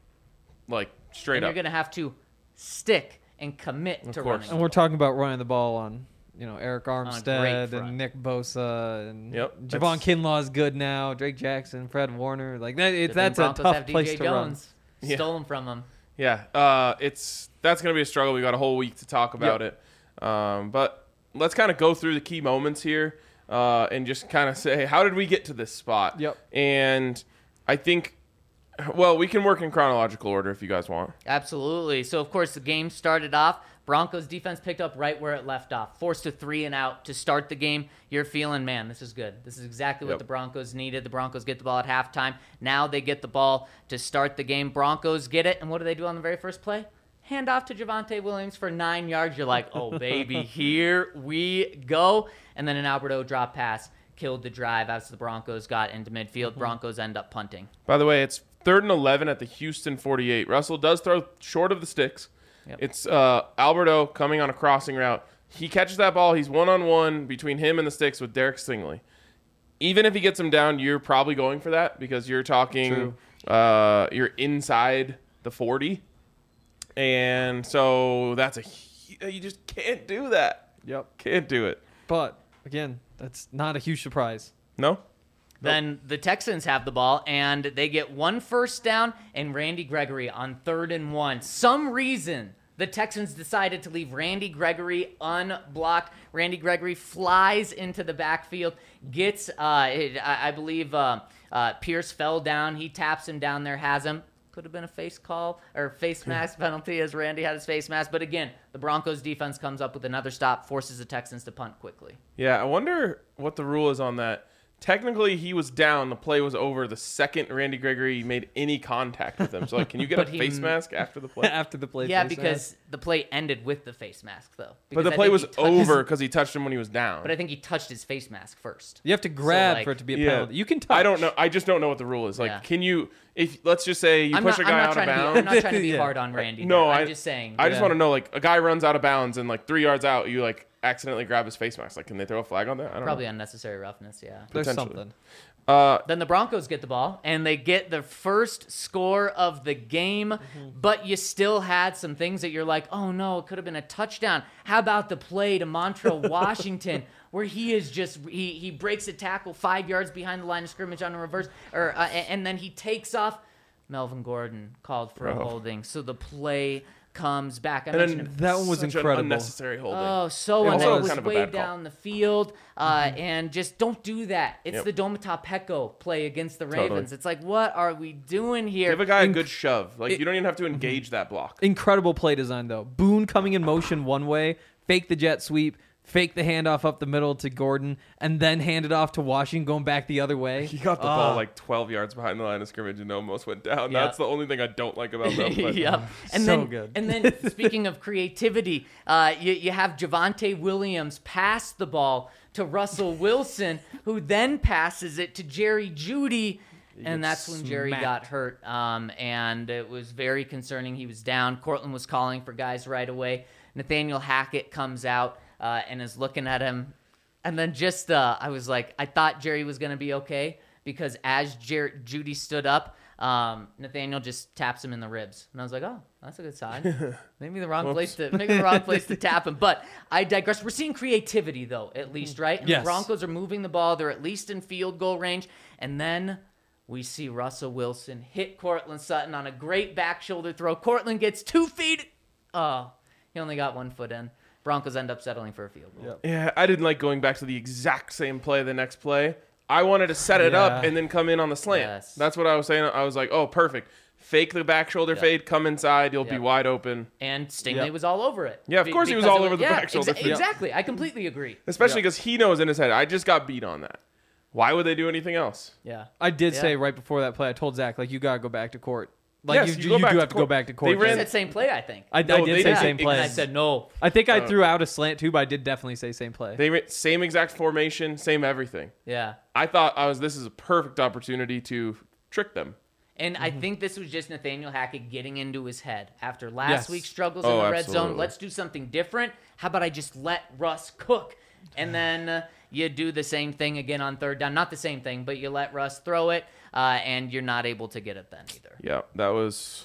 Straight and up. You're going to have to stick and commit to running. And we're talking about running the ball on, Eric Armstead front. and Nick Bosa and Yep. Javon Kinlaw is good now. Drake Jackson, Fred Warner. That's a Broncos tough have place DJ to Jones. Yeah. Stole him from him. Yeah. That's going to be a struggle. We got a whole week to talk about it. But let's kind of go through the key moments here. And just kind of say, how did we get to this spot? Yep. And I think, we can work in chronological order if you guys want. Absolutely. So, of course, the game started off. Broncos defense picked up right where it left off. Forced a 3-and-out to start the game. You're feeling, man, this is good. This is exactly what the Broncos needed. The Broncos get the ball at halftime. Now they get the ball to start the game. Broncos get it. And what do on the very first play? Hand off to Javonte Williams for 9 yards. You're like, oh, baby, here we go. And then an Alberto drop pass killed the drive as the Broncos got into midfield. Broncos end up punting. By the way, it's 3rd and 11 at the Houston 48. Russell does throw short of the sticks. Yep. It's Alberto coming on a crossing route. He catches that ball. He's one-on-one between him and the sticks with Derek Stingley. Even if he gets him down, you're probably going for that because you're talking you're inside the 40. And so you just can't do that. Yep. Can't do it. But again, that's not a huge surprise. No? Then the Texans have the ball, and they get 1 first down, and Randy Gregory on 3rd and 1. Some reason the Texans decided to leave Randy Gregory unblocked. Randy Gregory flies into the backfield, gets, I believe, Pierce fell down. He taps him down there, has him. Could have been a face mask penalty as Randy had his face mask. But again, the Broncos defense comes up with another stop, forces the Texans to punt quickly. Yeah, I wonder what the rule is on that. Technically, he was down. The play was over the second Randy Gregory made any contact with him. So, like, can you get a face mask after the play? After the play. Yeah, face because mask. the play ended with the face mask, though. But Because the I play think was he touched over because he touched him when he was down. But I think he touched his face mask first. You have to grab like- for it to be a Yeah. penalty. You can touch. I don't know. I just don't know what the rule is. Like, Yeah. can you, if let's just say you push a guy out of I'm bounds. not trying to be Yeah. hard on Randy. No, I'm just saying. I just Yeah. want to know, like, a guy runs out of bounds and, like, 3 yards out, you, like, accidentally grab his face mask. Like, can they throw a flag on that? I don't Probably know. unnecessary roughness, yeah. There's potentially. something. Then the Broncos get the ball, and they get the first score of the game, but you still had some things that you're like, oh, no, it could have been a touchdown. How about the play to Montrell Washington, where he is just he breaks a tackle 5 yards behind the line of scrimmage on a reverse, and then he takes off. Melvin Gordon called for a holding, so the play comes back. I mentioned it That one was Such incredible. an unnecessary holding. Oh, so It was it was kind of a way bad call. down the field, and just don't do that. It's Yep. the Domata Peko play against the Totally. Ravens. It's like, what are we doing here? Give a guy a good shove. Like, you don't even have to engage that block. Incredible play design, though. Boone coming in motion one way, fake the jet sweep, fake the handoff up the middle to Gordon, and then hand it off to Washington going back the other way. He got the ball, like, 12 yards behind the line of scrimmage and almost went down. Yeah. That's the only thing I don't like about that play. Yep. And So then, good. And then, speaking of creativity, you have Javonte Williams pass the ball to Russell Wilson, who then passes it to Jerry Jeudy. And that's when Jerry smacked. got hurt, and it was very concerning. He was down. Cortland was calling for guys right away. Nathaniel Hackett comes out and is looking at him. And then just, I was like, I thought Jerry was going to be okay, because as Jeudy stood up, Nathaniel just taps him in the ribs. And I was like, oh, that's a good sign. Maybe the wrong place to tap him. But I digress. We're seeing creativity, though, at least, right? And Yes. the Broncos are moving the ball. They're at least in field goal range. And then we see Russell Wilson hit Cortland Sutton on a great back shoulder throw. Cortland gets 2 feet. Oh, he only got 1 foot in. Broncos end up settling for a field goal. Yep. Yeah, I didn't like going back to the exact same play the next play. I wanted to set it up Yeah. and then come in on the slant. Yes. That's what I was saying. I was like, oh, perfect. Fake the back shoulder fade, come inside, you'll be Yep. wide open. And Stingley Yep. was all over it. Yeah, of course he was because all it over the back shoulder fade. Exactly. I completely agree. Especially because he knows in his head, I just got beat on that. Why would they do anything else? Yeah. I did Yeah. say right before that play, I told Zach, like, you got to go back to court. Like, Yes, you you go do back have to to go court. back to They court. They ran- said same play, I think. I No, did they say did. same play. And I said no. I think I threw out a slant too, but I did definitely say same play. They ran same exact formation, same everything. Yeah. I thought this is a perfect opportunity to trick them. And I think this was just Nathaniel Hackett getting into his head after last Yes. week's struggles in Oh, the red zone. absolutely. Let's do something different. How about I just let Russ cook? And then you do the same thing again on 3rd down. Not the same thing, but you let Russ throw it, and you're not able to get it then either. Yeah, that was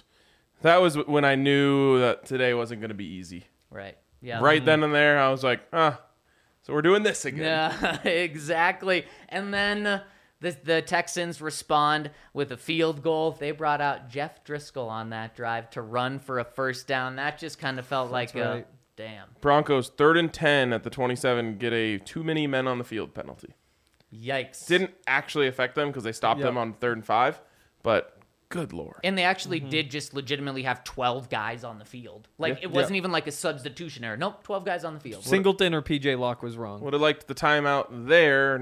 when I knew that today wasn't going to be easy. Right. Yeah. Right then and there, I was like, so we're doing this again. Yeah, exactly. And then the Texans respond with a field goal. They brought out Jeff Driscoll on that drive to run for a first down. That just kind of felt like right. damn. Broncos 3rd and 10 at the 27 get a too many men on the field penalty. Yikes. Didn't actually affect them because they stopped Yep. them on 3rd and 5, but good lord. And they actually did just legitimately have 12 guys on the field. Like, it wasn't even like a substitution error. Nope, 12 guys on the field. Singleton or PJ Locke was wrong. Would have liked the timeout there,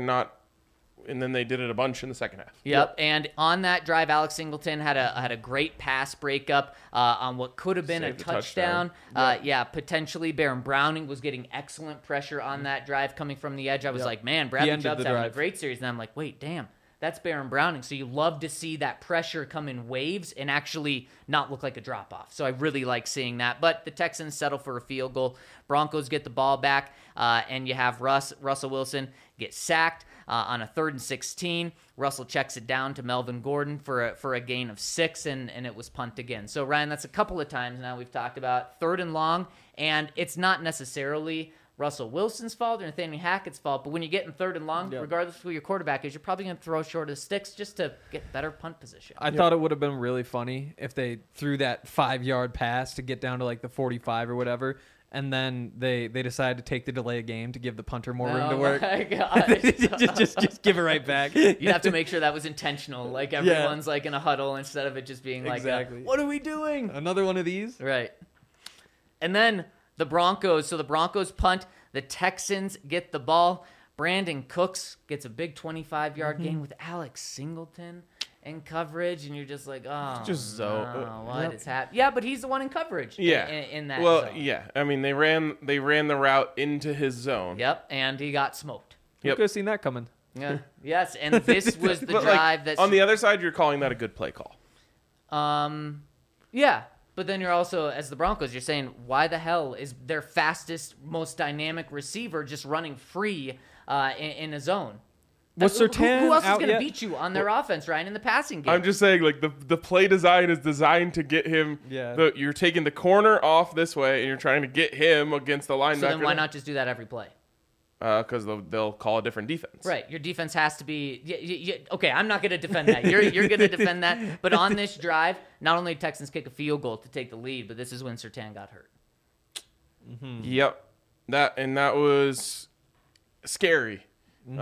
and then they did it a bunch in the second half. Yep. And on that drive, Alex Singleton had a great pass breakup on what could have been Saved a a touchdown. touchdown. Potentially. Baron Browning was getting excellent pressure on that drive coming from the edge. I was Yep. like, man, He Bradley ended Chubb's the having a drive. great series. And I'm like, wait, damn. That's Baron Browning. So you love to see that pressure come in waves and actually not look like a drop-off. So I really like seeing that. But the Texans settle for a field goal. Broncos get the ball back, and you have Russell Wilson get sacked on a 3rd and 16. Russell checks it down to Melvin Gordon for a gain of 6, and it was punt again. So, Ryan, that's a couple of times now we've talked about 3rd and long, And it's not necessarily Russell Wilson's fault or Nathaniel Hackett's fault, but when you get in 3rd and long, regardless of who your quarterback is, you're probably going to throw short of the sticks just to get better punt position. I thought it would have been really funny if they threw that 5-yard pass to get down to like the 45 or whatever, and then they decided to take the delay of game to give the punter more room to work. Oh my God. just give it right back. You'd have to make sure that was intentional. Like everyone's like in a huddle instead of it just being like, Exactly. what are we doing? Another one of these. Right. And then the Broncos. So the Broncos punt. The Texans get the ball. Brandon Cooks gets a big 25-yard gain with Alex Singleton in coverage. And you're just like, oh, Just no, what is happening? Yeah, but he's the one in coverage Yeah. in that Well, zone. yeah. I mean, they ran the route into his zone. Yep, and he got smoked. You Yep. could have seen that coming. Yeah. Yes, and this was the But, drive like, that on the other side, you're calling that a good play call. Yeah, but then you're also, as the Broncos, you're saying, why the hell is their fastest, most dynamic receiver just running free in a zone? Was Who Surtain else is out going to yet? beat you on their offense, Ryan, in the passing game? I'm just saying, like, the play design is designed to get him. Yeah. You're taking the corner off this way, and you're trying to get him against the linebacker. so then why not just do that every play? Because they'll call a different defense. Right, your defense has to be. Okay, I'm not going to defend that. You're going to defend that. But on this drive, not only did Texans kick a field goal to take the lead, but this is when Surtain got hurt. Yep. That was scary. And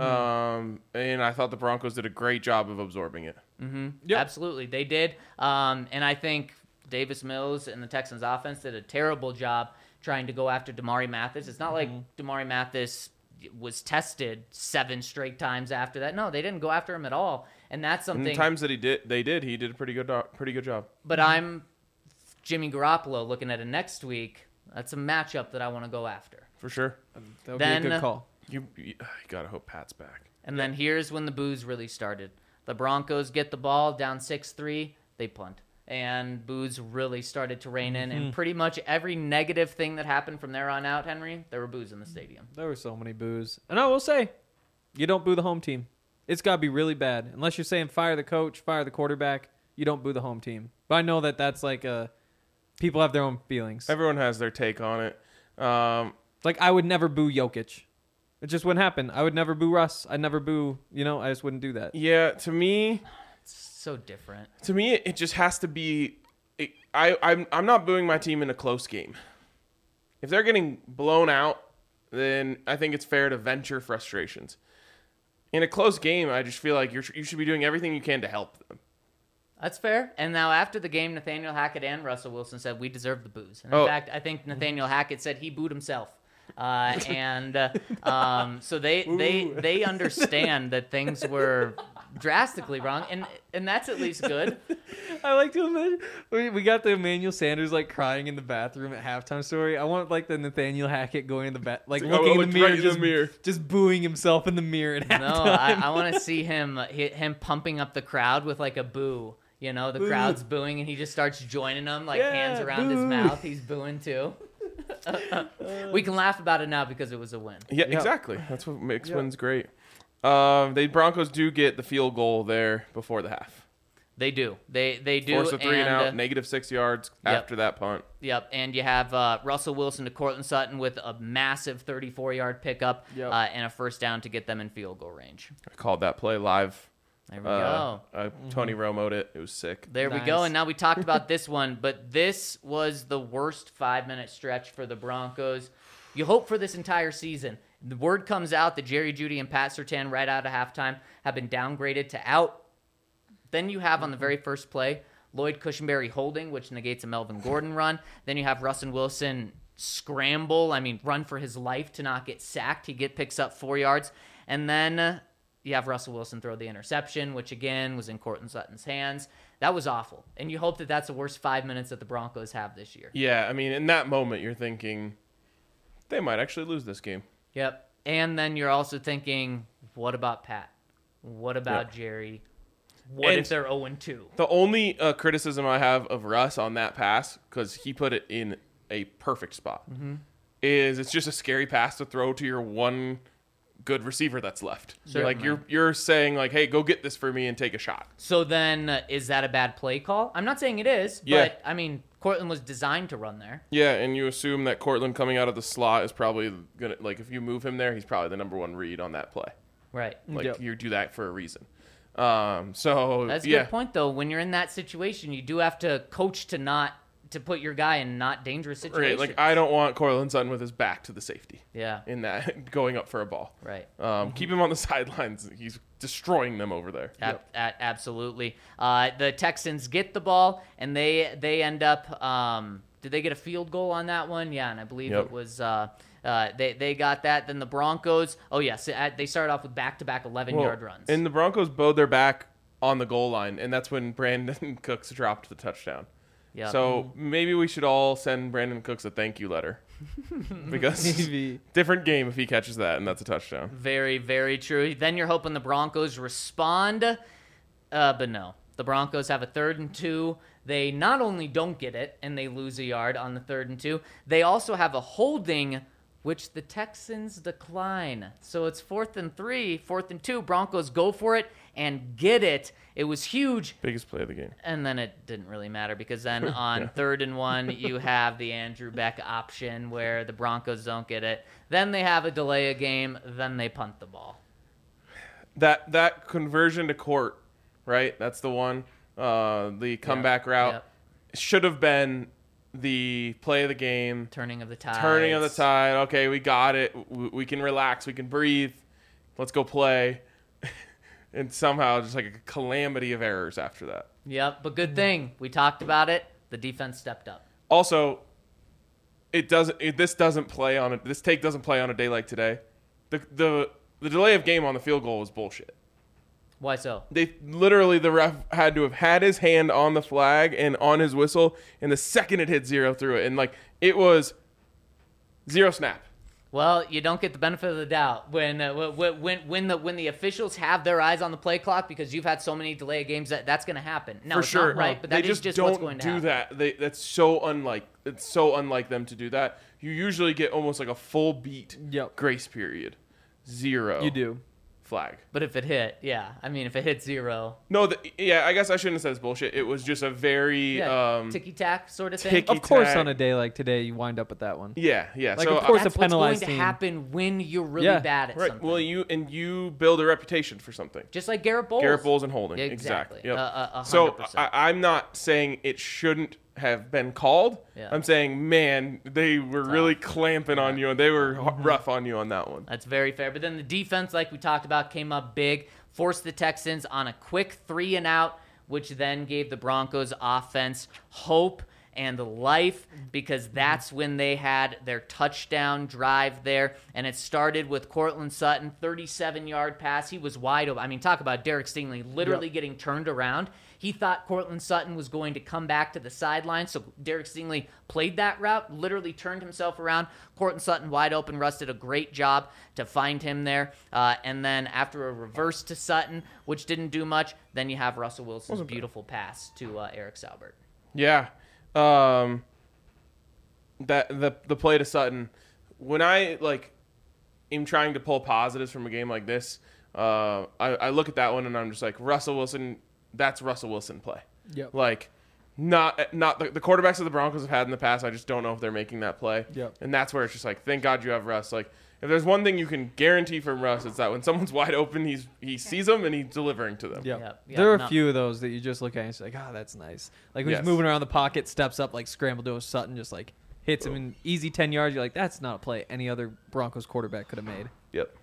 I thought the Broncos did a great job of absorbing it. Yep. Absolutely, they did. And I think Davis Mills and the Texans offense did a terrible job trying to go after Damari Mathis. It's not like Damari Mathis was tested 7 straight times after that. No, they didn't go after him at all. And that's And something. the times that he did a pretty good job. But I'm Jimmy Garoppolo looking at it next week. That's a matchup that I want to go after. For sure. That would Then- be a good call. You gotta hope Pat's back. And then here's when the booze really started. The Broncos get the ball down 6-3, they punt. And booze really started to reign in. And pretty much every negative thing that happened from there on out, Henry, there were boos in the stadium. There were so many boos. And I will say, you don't boo the home team. It's got to be really bad. Unless you're saying fire the coach, fire the quarterback, you don't boo the home team. But I know that that's like people have their own feelings. Everyone has their take on it. Like, I would never boo Jokic. It just wouldn't happen. I would never boo Russ. I'd never boo, I just wouldn't do that. Yeah, to me, So different. it just has to be. I'm not booing my team in a close game. If they're getting blown out, then I think it's fair to venture frustrations. In a close game, I just feel like you should be doing everything you can to help them. That's fair. And now after the game, Nathaniel Hackett and Russell Wilson said we deserve the boos. And in fact, I think Nathaniel Hackett said he booed himself. So they understand that things were drastically wrong, and that's at least good. I like to imagine we got the Emmanuel Sanders like crying in the bathroom at halftime story. I want like the Nathaniel Hackett going in the looking in the mirror, right in the mirror. just booing himself in the mirror at No, halftime. I want to see him pumping up the crowd with like a boo. The crowd's booing, and he just starts joining them, like Yeah, hands around his boo. mouth. He's booing too. We can laugh about it now because it was a win. Yeah, Yep. exactly. That's what makes wins great. The Broncos do get the field goal there before the half. They do. They do. Force a 3 and out, uh, negative 6 yards Yep. after that punt. Yep, and you have Russell Wilson to Cortland Sutton with a massive 34-yard pickup Yep. and a first down to get them in field goal range. I called that play live. There we go. Tony Romo'd it. It was sick. There we Nice. go. And now we talked about this one, but this was the worst 5-minute stretch for the Broncos. You hope for this entire season. The word comes out that Jerry Jeudy and Pat Surtain right out of halftime have been downgraded to out. Then you have on the very first play, Lloyd Cushenberry holding, which negates a Melvin Gordon run. Then you have Russell Wilson run for his life to not get sacked. He picks up 4 yards. And then you have Russell Wilson throw the interception, which again was in Cortland Sutton's hands. That was awful. And you hope that that's the worst 5 minutes that the Broncos have this year. Yeah, I mean, in that moment, you're thinking they might actually lose this game. Yep. And then you're also thinking, what about Pat? What about Jerry? What And if they're 0-2? The only criticism I have of Russ on that pass, because he put it in a perfect spot, is it's just a scary pass to throw to your one good receiver that's left. Certainly. Like you're saying like, hey, go get this for me and take a shot. So then is that a bad play call? I'm not saying it is, Yeah. but I mean, Cortland was designed to run there. Yeah, and you assume that Cortland coming out of the slot is probably gonna, like, if you move him there, he's probably the number one read on that play. Right. Like, Yep. you do that for a reason. So That's a yeah, good point, though. When you're in that situation, you do have to coach to put your guy in not dangerous situations. right. Like, I don't want Cortland Sutton with his back to the safety Yeah. in that going up for a ball. Right. Keep him on the sidelines. He's destroying them over there. Absolutely. The Texans get the ball, and they end up. Did they get a field goal on that one? Yeah, and I believe Yep. it was. They got that. Then the Broncos. Oh yes, they started off with back-to-back 11-yard runs. And the Broncos bowed their back on the goal line, and that's when Brandon Cooks dropped the touchdown. Yep. So maybe we should all send Brandon Cooks a thank you letter. Because Maybe. different game if he catches that, and that's a touchdown. Very, very true. Then you're hoping the Broncos respond, but no. The Broncos have a 3rd and 2. They not only don't get it, and they lose a yard on the 3rd and 2, they also have a holding, which the Texans decline. So it's 4th and 3, 4th and 2. Broncos go for it and get it. It was huge. Biggest play of the game. And then it didn't really matter because then on 3rd and 1, you have the Andrew Beck option where the Broncos don't get it. Then they have a delay of game. Then they punt the ball. That conversion to court, right? That's the one. The comeback route Yep. should have been the play of the game. Turning of the tide. Turning of the tide. Okay, we got it. We can relax. We can breathe. Let's go play. And somehow just like a calamity of errors after that. Yep, but good thing. We talked about it. The defense stepped up. Also, this doesn't play on it. This take doesn't play on a day like today. The delay of game on the field goal was bullshit. Why so? The ref had to have had his hand on the flag and on his whistle, and the second it hit 0 through it, and like it was 0 snap. Well, you don't get the benefit of the doubt when the officials have their eyes on the play clock because you've had so many delay games that's going to happen. No, For it's sure, not right, but they that is just don't what's going to do happen. that. That's so unlike. It's so unlike them to do that. You usually get almost like a full beat Yep. grace period. 0. You do. Flag. But if it hit, yeah. I mean, if it hit 0, No, I guess I shouldn't have said it's bullshit. It was just a very ticky-tack sort of thing. ticky- Of course, tag. on a day like today, you wind up with that one. yeah. Like, So of course, That's a what's going penalized to team. happen when you're really Yeah. bad at right. something. Well, you build a reputation for something. Just like Garrett Bowles. Garrett Bowles and holding. Yeah, Exactly. exactly. Yep. So 100%. I'm not saying it shouldn't have been called. Yeah. I'm saying, man, they were really clamping on you, and they were rough on you on that one. That's very fair. But then the defense, like we talked about, came up big, forced the Texans on a quick 3 and out, which then gave the Broncos offense hope and life because that's when they had their touchdown drive there. And it started with Cortland Sutton, 37-yard pass. He was wide open. I mean, talk about Derek Stingley literally getting turned around. He thought Cortland Sutton was going to come back to the sideline, so Derek Stingley played that route, literally turned himself around. Cortland Sutton wide open. Russ did a great job to find him there. And then after a reverse to Sutton, which didn't do much, then you have Russell Wilson's beautiful pass to Eric Saubert. Yeah. That the play to Sutton, when I am trying to pull positives from a game like this, I look at that one and I'm just like, Russell Wilson, that's Russell Wilson play. Yep. Like not the quarterbacks that the Broncos have had in the past, I just don't know if they're making that play. Yep. And that's where it's just like, thank God you have Russ. Like if there's one thing you can guarantee from Russ, it's that when someone's wide open, he sees them and he's delivering to them. Yep. Yep, There are no. a few of those that you just look at and it's like, that's nice. Like when Yes. he's moving around the pocket, steps up, like scramble to a Sutton, just like hits him in easy 10 yards. You're like, that's not a play any other Broncos quarterback could have made. Yep.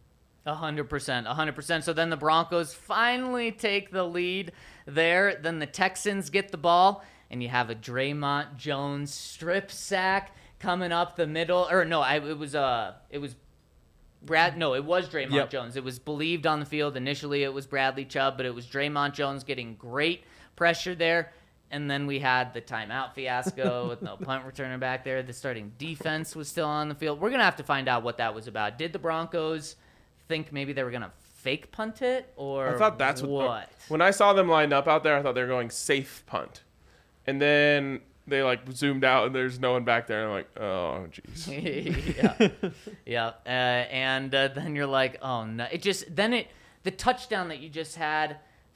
100%. So then the Broncos finally take the lead there. Then the Texans get the ball, and you have a Draymond Jones strip sack coming up the middle. Or no, it was Draymond Yep. Jones. It was believed on the field. Initially, it was Bradley Chubb, but it was Draymond Jones getting great pressure there. And then we had the timeout fiasco with no punt returner back there. The starting defense was still on the field. We're going to have to find out what that was about. Did the Broncos think maybe they were going to fake punt it, or I thought that's what? When I saw them lined up out there, I thought they were going safe punt. And then they zoomed out and there's no one back there. And I'm like, oh, jeez. Yeah. And then you're like, oh, no. The touchdown that you just had felt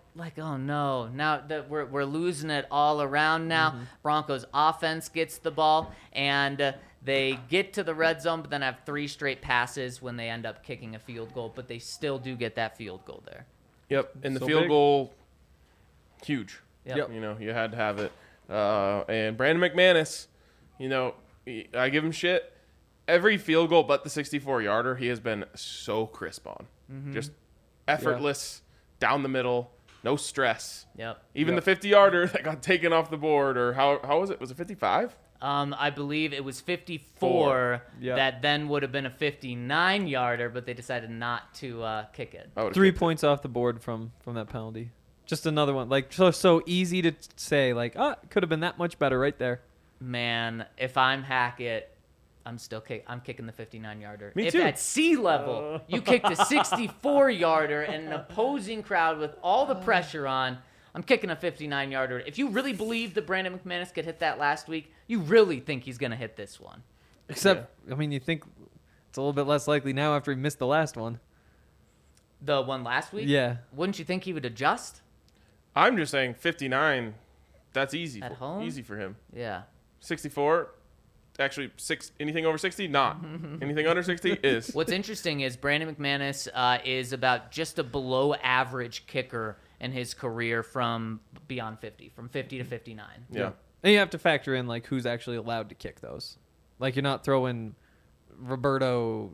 like, oh no, now that we're losing it all around now. Broncos offense gets the ball, and they get to the red zone, but then have 3 straight passes when they end up kicking a field goal, but they still do get that field goal there. Yep, and the So field big. goal, huge. Yep. You know, you had to have it. And Brandon McManus, you know, I give him shit. Every field goal but the 64-yarder, he has been so crisp on. Just effortless, down the middle, no stress. Yep. Even the 50-yarder that got taken off the board, or how was it? Was it 55? I believe it was 54 Yeah. that then would have been a 59-yarder, but they decided not to kick it. I would've 3 kicked it. points off the board from that penalty. Just another one. Like, so easy to say, like, could have been that much better right there. Man, if I'm Hackett, I'm kicking the 59-yarder. Me if too. at sea level you kicked a 64-yarder and an opposing crowd with all the pressure on, I'm kicking a 59-yarder. If you really believe that Brandon McManus could hit that last week, you really think he's going to hit this one. Except, I mean, you think it's a little bit less likely now after he missed the last one. The one last week? Yeah. Wouldn't you think he would adjust? I'm just saying 59, that's easy. At home? Easy for him. Yeah. 64, actually, anything over 60, not. Anything under 60 is. What's interesting is Brandon McManus is about just a below average kicker in his career from beyond 50, from 50 to 59. Yeah. And you have to factor in, like, who's actually allowed to kick those. Like, you're not throwing Roberto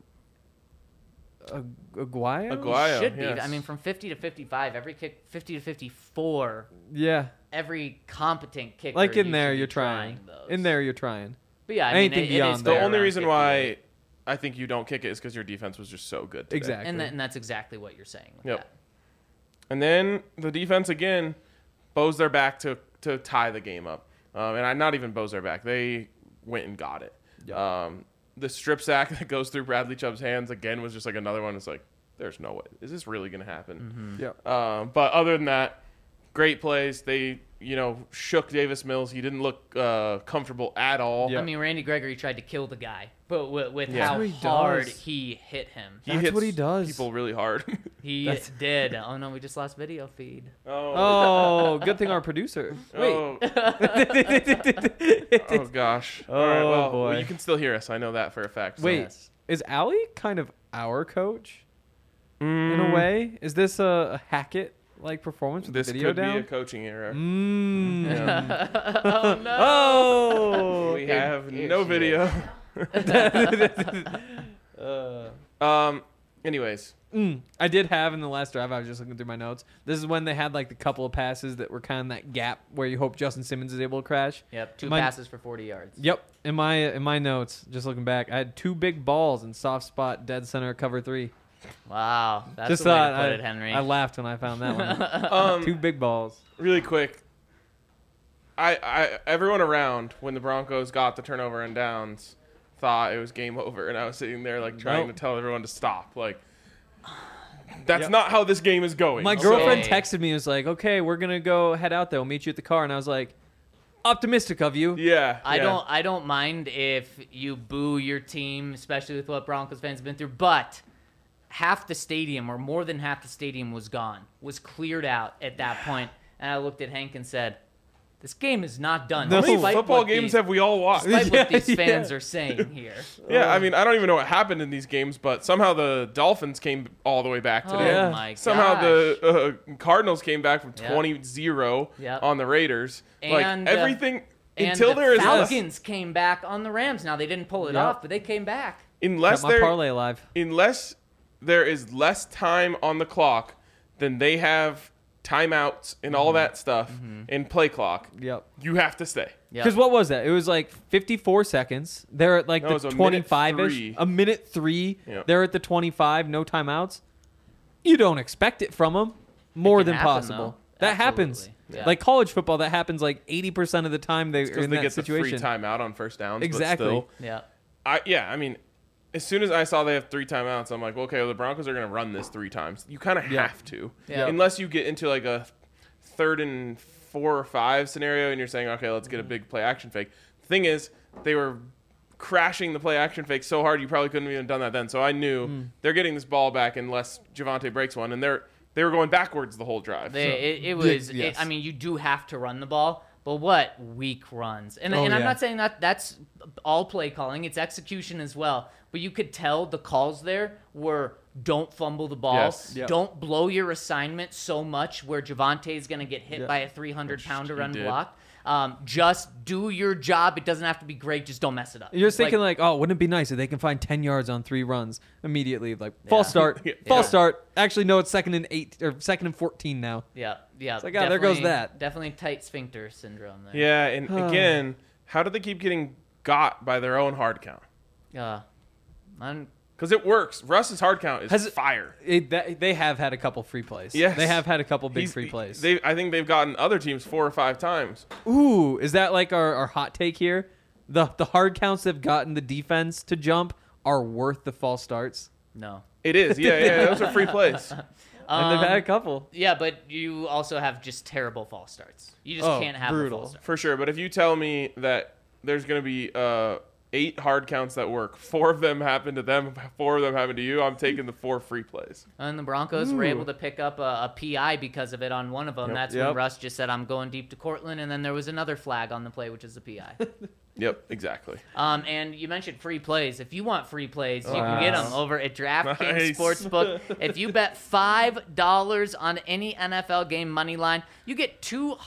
Aguayo? Aguayo, Should be. yes. I mean, from 50 to 55, every kick, 50 to 54, Yeah. every competent kicker. Like, in you there, should be you're trying. those. In there, you're trying. But yeah, I mean, anything it beyond is that. The fair only around reason 58. why I think you don't kick it is because your defense was just so good today. Exactly. And that's exactly what you're saying with Yep. that. And then the defense again bows their back to tie the game up. Not even bows their back. They went and got it. Yep. The strip sack that goes through Bradley Chubb's hands again was just like another one. It's like, there's no way. Is this really going to happen? Yeah. But other than that, great plays. They, shook Davis Mills. He didn't look comfortable at all. Yeah. I mean, Randy Gregory tried to kill the guy, but with Yeah. how That's what he hard does. he hit him. He That's hits what he does. people really hard. He did. Oh, no, we just lost video feed. Oh, good thing our producer. Wait. Oh, oh gosh. All right, Oh, well, boy. you can still hear us. I know that for a fact. So. Wait, Yes. is Allie kind of our coach in Mm, a way? Is this a Hackett like performance with This the video could down? be a coaching error. Mm. Yeah. Oh, no. Oh. We have here no she video. Uh, Anyways, I did have in the last drive. I was just looking through my notes. This is when they had like the couple of passes that were kind of that gap where you hope Justin Simmons is able to crash. Yep, two My- passes for 40 yards. Yep. In my notes, just looking back, I had 2 big balls in soft spot, dead center, cover 3. Wow, that's just the way thought to put it, Henry. I laughed when I found that one. 2 big balls. really quick. Everyone around when the Broncos got the turnover and downs thought it was game over, and I was sitting there like trying Nope. to tell everyone to stop. Like, that's Yep. not how this game is going. My Okay. girlfriend texted me and was like, "Okay, we're gonna go head out there. We'll meet you at the car." And I was like, "Optimistic of you." Yeah, I yeah. don't mind if you boo your team, especially with what Broncos fans have been through, but half the stadium or more than half the stadium was gone, was cleared out at that point. And I looked at Hank and said, this game is not done. No. How many despite football what games these- have we all watched? Despite what Yeah, these fans yeah. are saying here. Yeah, I mean, I don't even know what happened in these games, but somehow the Dolphins came all the way back today. Oh Yeah. my gosh. Somehow the Cardinals came back from Yep. 20-0 Yep. on the Raiders. And, like everything And until the there is Falcons came back on the Rams. Now they didn't pull it Yep. off, but they came back. unless Got my there parlay alive. unless there is less time on the clock than they have timeouts and all that stuff and play clock, Yep. you have to stay. Yep. Because what was that? It was like 54 seconds. They're at like No, it was the a minute 25-ish. three. A minute 3. Yep. They're at the 25. No timeouts. You don't expect it from them. More can than happen, possible. though. That happens. Absolutely. Yeah. Like college football, that happens like 80% of the time they're Because in they that get situation. the free timeout on first downs. Exactly. But still, Yeah. I mean, as soon as I saw they have 3 timeouts, I'm like, well, okay, well, the Broncos are going to run this 3 times. You kind of Yeah. have to. Yeah. Unless you get into like a 3rd and 4 or 5 scenario and you're saying, okay, let's get a big play action fake. The thing is, they were crashing the play action fake so hard you probably couldn't have even done that then. So I knew they're getting this ball back unless Javonte breaks one. And They were going backwards the whole drive. It was. yes. I mean, you do have to run the ball, but what weak runs? And Oh, I'm yeah. not saying that that's all play calling. It's execution as well. But you could tell the calls there were don't fumble the ball. Yes. Yep. Don't blow your assignment so much where Javonte is going to get hit Yep. by a 300-pounder he did. unblocked. Just do your job. It doesn't have to be great. Just don't mess it up. You're just thinking like, oh, wouldn't it be nice if they can find 10 yards on 3 runs immediately? Like, false start, false start. Actually, no, it's 2nd and 8 or 2nd and 14 now. Yeah. It's like, there goes definitely- that. Definitely tight sphincter syndrome there. Yeah, and again, how do they keep getting got by their own hard count? Because it works. Russ's hard count is fire. They have had a couple free plays. Yes. They have had a couple big free plays. I think they've gotten other teams 4 or 5 times. Ooh, is that like our hot take here? The hard counts that have gotten the defense to jump are worth the false starts. No. It is. Yeah. Those are free plays. And they've had a couple. Yeah, but you also have just terrible false starts. You just can't have brutal. the false start. For sure. But if you tell me that there's going to be 8 hard counts that work, 4 of them happen to them, 4 of them happen to you, I'm taking the 4 free plays. And the Broncos were able to pick up a PI because of it on one of them. Yep. That's Yep. when Russ just said, I'm going deep to Cortland, and then there was another flag on the play, which is a PI. Yep, exactly. And you mentioned free plays. If you want free plays, you can get them over at DraftKings Nice. Sportsbook. If you bet $5 on any NFL game money line, you get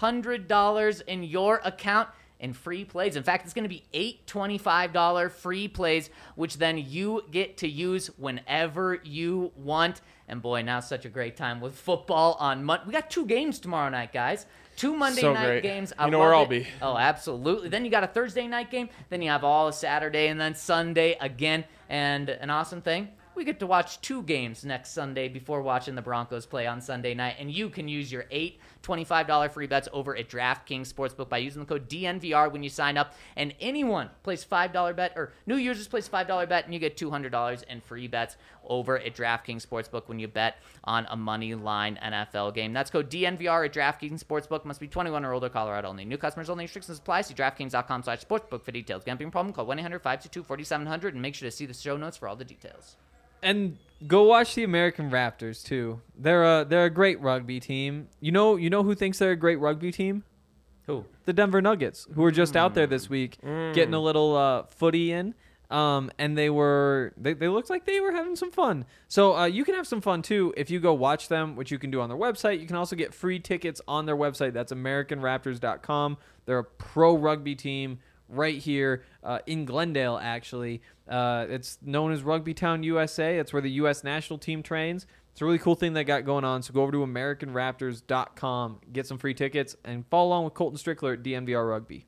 $200 in your account in free plays. In fact, it's going to be 8 $25 free plays, which then you get to use whenever you want. And boy, now's such a great time with football on Monday. We got 2 games tomorrow night, guys. 2 Monday So night great. games. You know where love I'll it. be. Oh, absolutely. Then you got a Thursday night game. Then you have all of Saturday and then Sunday again. And an awesome thing, we get to watch 2 games next Sunday before watching the Broncos play on Sunday night. And you can use your 8 $25 free bets over at DraftKings Sportsbook by using the code DNVR when you sign up. And anyone plays $5 bet, or new users place $5 bet, and you get $200 in free bets over at DraftKings Sportsbook when you bet on a money line NFL game. That's code DNVR at DraftKings Sportsbook. Must be 21 or older, Colorado only. New customers only. Restrictions apply. See DraftKings.com/sportsbook for details. Gambling problem? Call 1-800-522-4700 and make sure to see the show notes for all the details. And go watch the American Raptors too. They're a great rugby team. You know who thinks they're a great rugby team? Who? The Denver Nuggets, who were just out there this week getting a little footy in. And they looked like they were having some fun. So you can have some fun too if you go watch them, which you can do on their website. You can also get free tickets on their website. That's AmericanRaptors.com. They're a pro rugby team right here in Glendale, actually. It's known as Rugby Town, USA. That's where the U.S. national team trains. It's a really cool thing they got going on. So go over to AmericanRaptors.com, get some free tickets, and follow along with Colton Strickler at DNVR Rugby.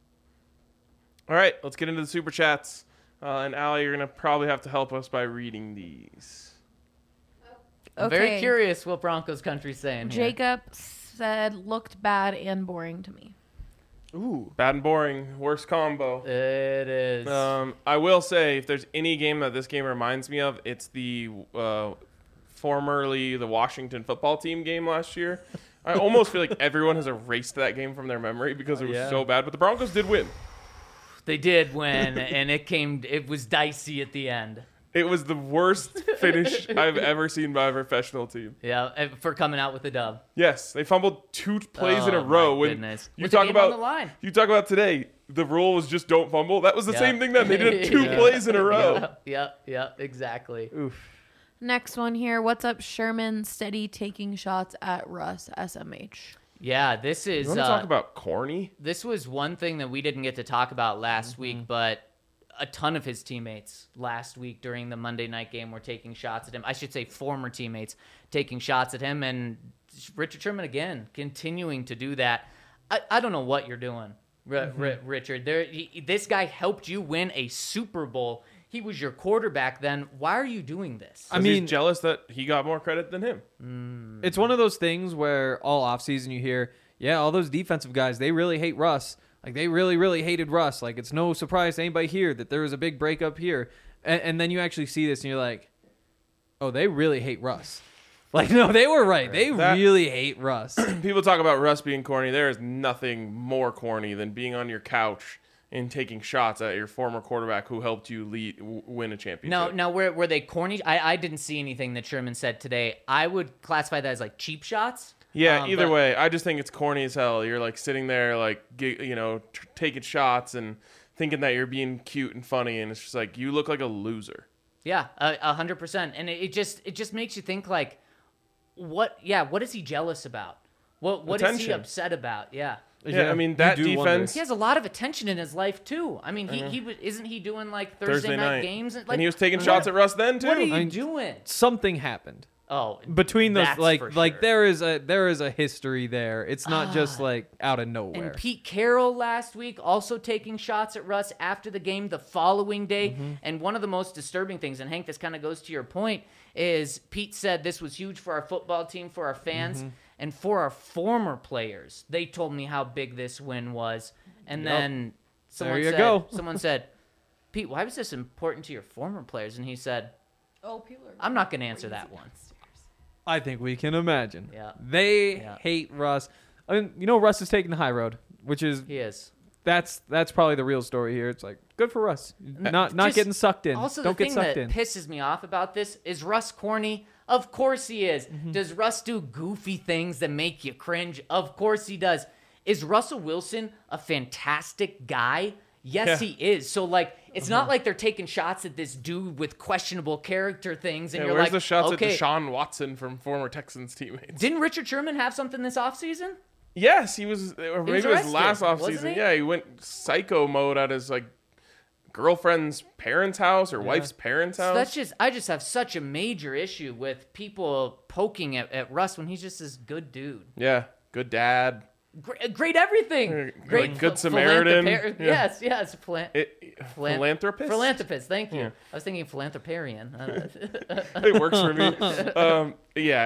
All right, let's get into the Super Chats. And Allie, you're going to probably have to help us by reading these. I'm very curious what Broncos country's saying here. Jacob said looked bad and boring to me. Ooh. Bad and boring, worst combo. It is. I will say, if there's any game that this game reminds me of, it's the formerly the Washington football team game last year. I almost feel like everyone has erased that game from their memory because it was so bad. But the Broncos did win. They did win, and it was dicey at the end. It was the worst finish I've ever seen by a professional team. Yeah, for coming out with the dub. Yes, they fumbled 2 plays in a Oh, row. my When goodness. you With the talk game about on the line. you talk about today, the rule was just don't fumble. That was the Yeah. same thing then. They did 2 Yeah. plays in a row. Yeah, exactly. Next one here. What's up, Sherman? Steady taking shots at Russ, SMH. Yeah, this is. You want to talk about corny? This was one thing that we didn't get to talk about last week, but a ton of his teammates last week during the Monday night game were taking shots at him. I should say former teammates taking shots at him, and Richard Sherman again continuing to do that. I don't know what you're doing, Richard. This guy helped you win a Super Bowl. He was your quarterback then. Why are you doing this? I mean, he's jealous that he got more credit than him. it's one of those things where all offseason you hear, yeah, all those defensive guys, they really hate Russ. Like, they really, really hated Russ. Like, it's no surprise to anybody here that there was a big breakup here. And then you actually see this, and you're like, oh, they really hate Russ. Like, no, they were right. They really hate Russ. People talk about Russ being corny. There is nothing more corny than being on your couch in taking shots at your former quarterback who helped you win a championship. Now, were they corny? I didn't see anything that Sherman said today. I would classify that as like cheap shots. Yeah, either but- way, I just think it's corny as hell. You're like sitting there, like taking shots and thinking that you're being cute and funny, and it's just like you look like a loser. Yeah, 100%. And it just makes you think like, what is he jealous about? What is he Attention. upset about? Yeah. Yeah, I mean that you do wonder. defense. He has a lot of attention in his life too. I mean, isn't he doing like Thursday night games? Like, and he was taking shots at Russ then too. What are you doing? Something happened Oh, between those. that's for Like sure. there is a history there. It's not just like out of nowhere. And Pete Carroll last week also taking shots at Russ after the game the following day. And one of the most disturbing things, and Hank, this kind of goes to your point, is Pete said this was huge for our football team, for our fans, and for our former players. They told me how big this win was. And then someone said, Pete, why was this important to your former players? And he said, People are. I'm not going to answer that one. I think we can imagine. Yeah. They Yeah. hate Russ. I mean, Russ is taking the high road, which is He is. that's probably the real story here. It's like good for Russ, not Just- getting sucked in. Also, Don't the get thing sucked that in. pisses me off about this is Russ corny. Of course he is. Does Russ do goofy things that make you cringe? Of course he does. Is Russell Wilson a fantastic guy? Yes, he is. So, like, it's not like they're taking shots at this dude with questionable character things, and Yeah, you're where's like, the shots okay. at Deshaun Watson from former Texans teammates? Didn't Richard Sherman have something this offseason? Yes, he was. Or maybe it was arrested, last wasn't offseason. he? Yeah, he went psycho mode at his like girlfriend's parents' house or wife's parents' So house. that's I just have such a major issue with people poking at Russ when he's just this good dude. Yeah, good dad. Great everything. Like Great Good Samaritan. Yeah. Yes. Philanthropist. Philanthropist. Thank you. Yeah. I was thinking philanthroparian. It works for me. Yeah,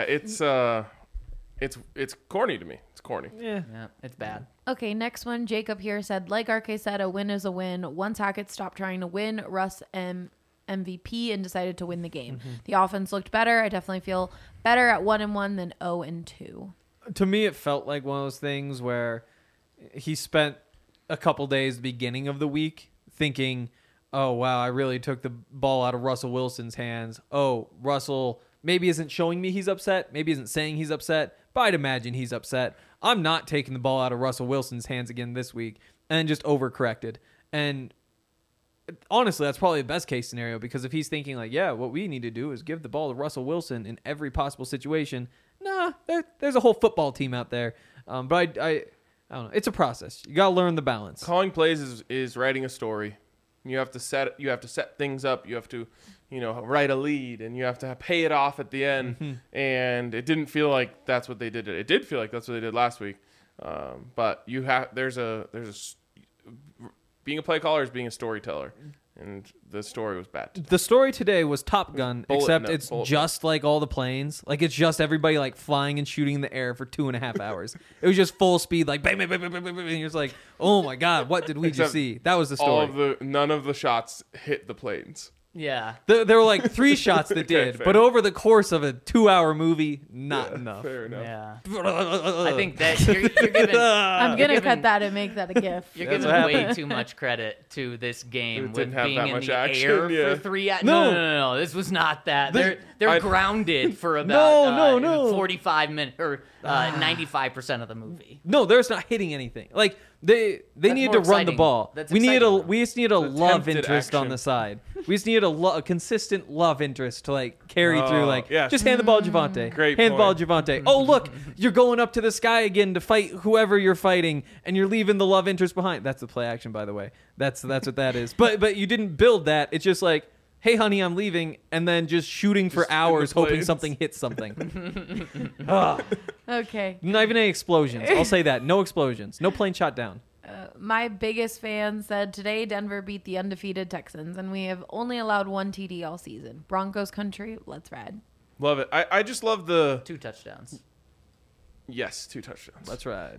it's corny to me. It's corny. Yeah. Yeah, it's bad. Okay, next one. Jacob here said, like RK said, a win is a win. Once Hackett stopped trying to win, Russ MVP and decided to win the game. The offense looked better. I definitely feel better at 1-1 than 0-2. To me, it felt like one of those things where he spent a couple days at the beginning of the week thinking, oh, wow, I really took the ball out of Russell Wilson's hands. Oh, Russell maybe isn't showing me he's upset, maybe isn't saying he's upset, but I'd imagine he's upset. I'm not taking the ball out of Russell Wilson's hands again this week, and just overcorrected. And honestly, that's probably the best case scenario, because if he's thinking like, yeah, what we need to do is give the ball to Russell Wilson in every possible situation, there's a whole football team out there. But I don't know. It's a process. You got to learn the balance. Calling plays is writing a story. You have to set things up. You have to, write a lead, and you have to pay it off at the end. And it didn't feel like that's what they did. It did feel like that's what they did last week. But being a play caller is being a storyteller, and the story was bad. The story today was Top Gun, except it's just like all the planes. Like, it's just everybody like flying and shooting in the air for 2.5 hours. It was just full speed, like bang, bang, bang, bang, bang, bang, and you're just like, oh my god, what did we just see? That was the story. None of the shots hit the planes. Yeah. There were like 3 shots that did, fair. but over the course of a 2-hour movie, not enough. Fair enough. Yeah. I think that you're giving. I'm going to giving- cut that and make that a GIF. You're That's giving what way happened. too much credit to this game It with didn't have being that in much the action, air yeah. for 3 hours. No. No. This was not that. They're I- grounded for about No. 45 minutes or 95% of the movie. No, there's not hitting anything. Like they needed to more run the exciting. ball. That's We exciting. just need a love Attempted interest on action. the side. We just need a consistent love interest to like carry through. Like, yes. just hand the ball to Javante. Great hand the ball point. to Javante. Oh, look, you're going up to the sky again to fight whoever you're fighting, and you're leaving the love interest behind. That's the play action, by the way. That's what that is. But you didn't build that. It's just like, hey, honey, I'm leaving, and then just shooting for Just in the hours, hoping planes. something hits something. Ah. Okay. Not even any explosions. I'll say that. No explosions. No plane shot down. My biggest fan said, today Denver beat the undefeated Texans, and we have only allowed 1 TD all season. Broncos country, let's ride. Love it. I just love the 2 touchdowns. 2 touchdowns. Let's ride.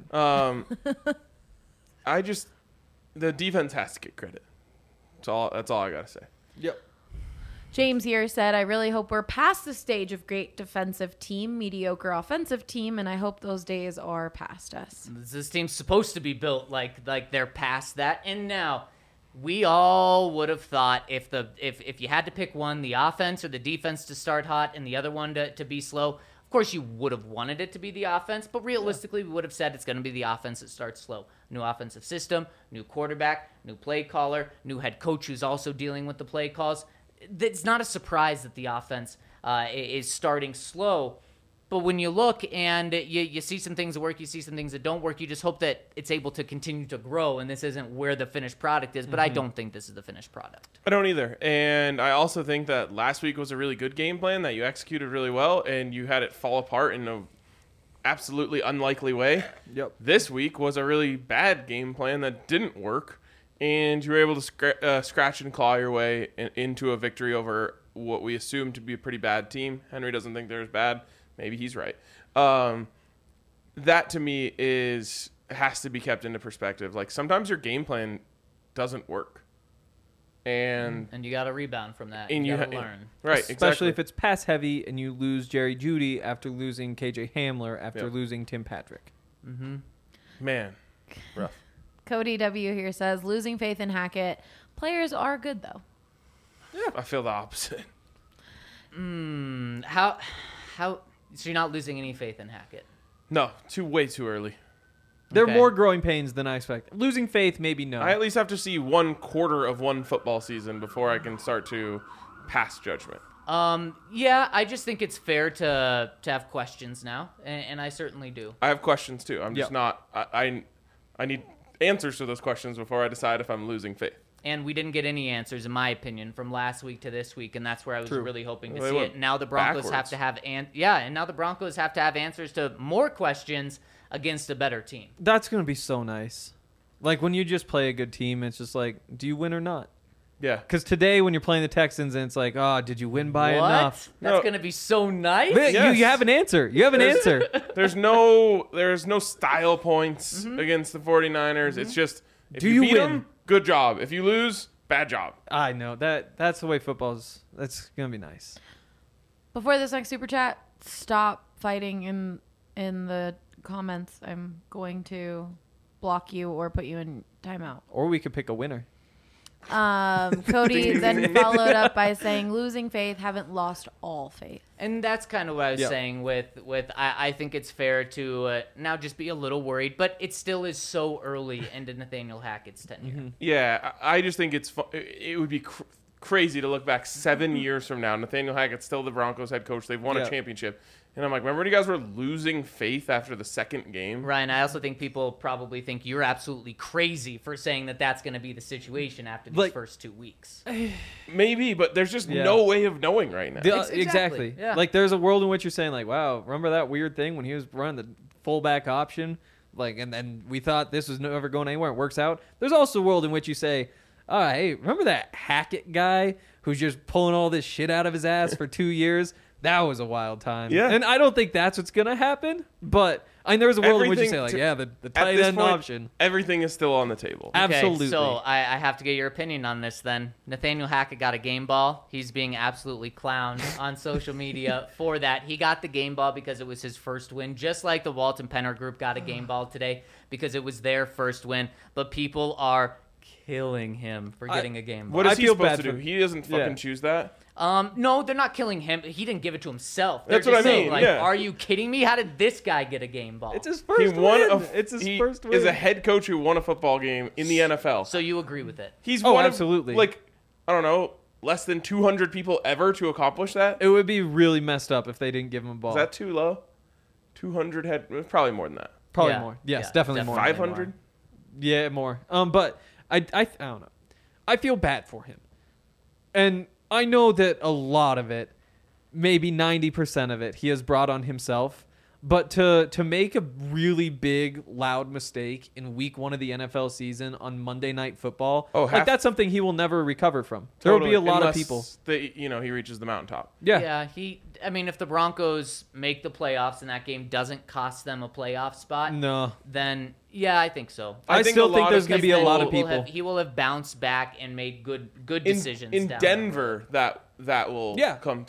The defense has to get credit. That's all I gotta say. Yep. James here said, I really hope we're past the stage of great defensive team, mediocre offensive team, and I hope those days are past us. This team's supposed to be built like they're past that. And now We all would have thought if you had to pick one, the offense or the defense to start hot and the other one to be slow, of course you would have wanted it to be the offense, but realistically we would have said it's going to be the offense that starts slow. New offensive system, new quarterback, new play caller, new head coach who's also dealing with the play calls. It's not a surprise that the offense is starting slow. But when you look and you see some things that work, you see some things that don't work, you just hope that it's able to continue to grow, and this isn't where the finished product is, but I don't think this is the finished product. I don't either. And I also think that last week was a really good game plan that you executed really well, and you had it fall apart in a absolutely unlikely way. Yep. This week was a really bad game plan that didn't work, and you were able to scratch and claw your way into a victory over what we assume to be a pretty bad team. Henry doesn't think they're as bad. Maybe he's right. That to me has to be kept into perspective. Like sometimes your game plan doesn't work, and you got to rebound from that. and You you got to learn. right, Especially exactly. if it's pass heavy and you lose Jerry Jeudy after losing KJ Hamler after Yep. losing Tim Patrick. Man, rough. Cody W here says, losing faith in Hackett. Players are good, though. I feel the opposite. How so you're not losing any faith in Hackett? No, way too early. There are Okay. more growing pains than I expect. Losing faith, maybe no. I at least have to see 1/4 of one football season before I can start to pass judgment. Yeah, I just think it's fair to have questions now, and I certainly do. I have questions too. I'm just Yep. not. I need answers to those questions before I decide if I'm losing faith. And we didn't get any answers, in my opinion, from last week to this week, and that's where I was True. really hoping to Well, they see went it. Now the Broncos backwards. have to have and now the Broncos have to have answers to more questions against a better team. That's going to be so nice. Like when you just play a good team, it's just like, do you win or not? Yeah. Because today when you're playing the Texans and it's like, oh, did you win by What? enough? That's No. gonna be so nice. Man, Yes. you have an answer. You have an answer. There's no style points against the 49ers. It's just if Do you you beat win? them, good job. If you lose, bad job. I know that's the way football's. That's gonna be nice. Before this next super chat, stop fighting in the comments. I'm going to block you or put you in timeout. Or we could pick a winner. Cody then followed up by saying, losing faith, haven't lost all faith. And that's kind of what I was Yeah. saying with I think it's fair to now just be a little worried, but it still is so early into Nathaniel Hackett's tenure. Yeah, I just think it would be crazy to look back 7 years from now. Nathaniel Hackett's still the Broncos head coach. They've won Yeah. a championship. And I'm like, remember when you guys were losing faith after the second game? Ryan, I also think people probably think you're absolutely crazy for saying that that's going to be the situation after these Like- first 2 weeks. Maybe, but there's just Yeah. no way of knowing right now. Exactly. Exactly. Yeah. Like there's a world in which you're saying like, wow, remember that weird thing when he was running the fullback option, like, and then we thought this was never going anywhere. It works out. There's also a world in which you say, oh, hey, remember that Hackett guy who's just pulling all this shit out of his ass for 2 years? That was a wild time. Yeah. And I don't think that's what's gonna happen. But I mean, there's a world in which you say Everything like, to- yeah, the At tight this end point, option. everything is still on the table. Absolutely. Okay, so I have to get your opinion on this then. Nathaniel Hackett got a game ball. He's being absolutely clowned on social media for that. He got the game ball because it was his first win, just like the Walton Penner group got a game ball today because it was their first win. But people are killing him for getting a game ball. What is I he feel supposed bad to do? for- He doesn't fucking Yeah. choose that. No, they're not killing him. He didn't give it to himself. They're That's what just I saying, mean, like, yeah. are you kidding me? How did this guy get a game ball? It's his He first won win. It's his he first win. is a head coach who won a football game in the NFL. So you agree with it? He's Oh, one absolutely. of, like, I don't know, less than 200 people ever to accomplish that. It would be really messed up if they didn't give him a ball. Is that too low? 200 head, probably more than that. Probably Yeah. more. Yes, Yeah, definitely definitely more. 500? Yeah, more. But I don't know. I feel bad for him, and I know that a lot of it, maybe 90% of it, he has brought on himself. But to make a really big, loud mistake in week 1 of the NFL season on Monday Night Football, like that's something he will never recover from. There will be a lot of people. He reaches the mountaintop. Yeah. I mean, if the Broncos make the playoffs and that game doesn't cost them a playoff spot, No. then yeah, I think so. I think still a think lot there's of going to be a Then lot of he will people. he will have bounced back and made good decisions In down Denver, that will Yeah. come through.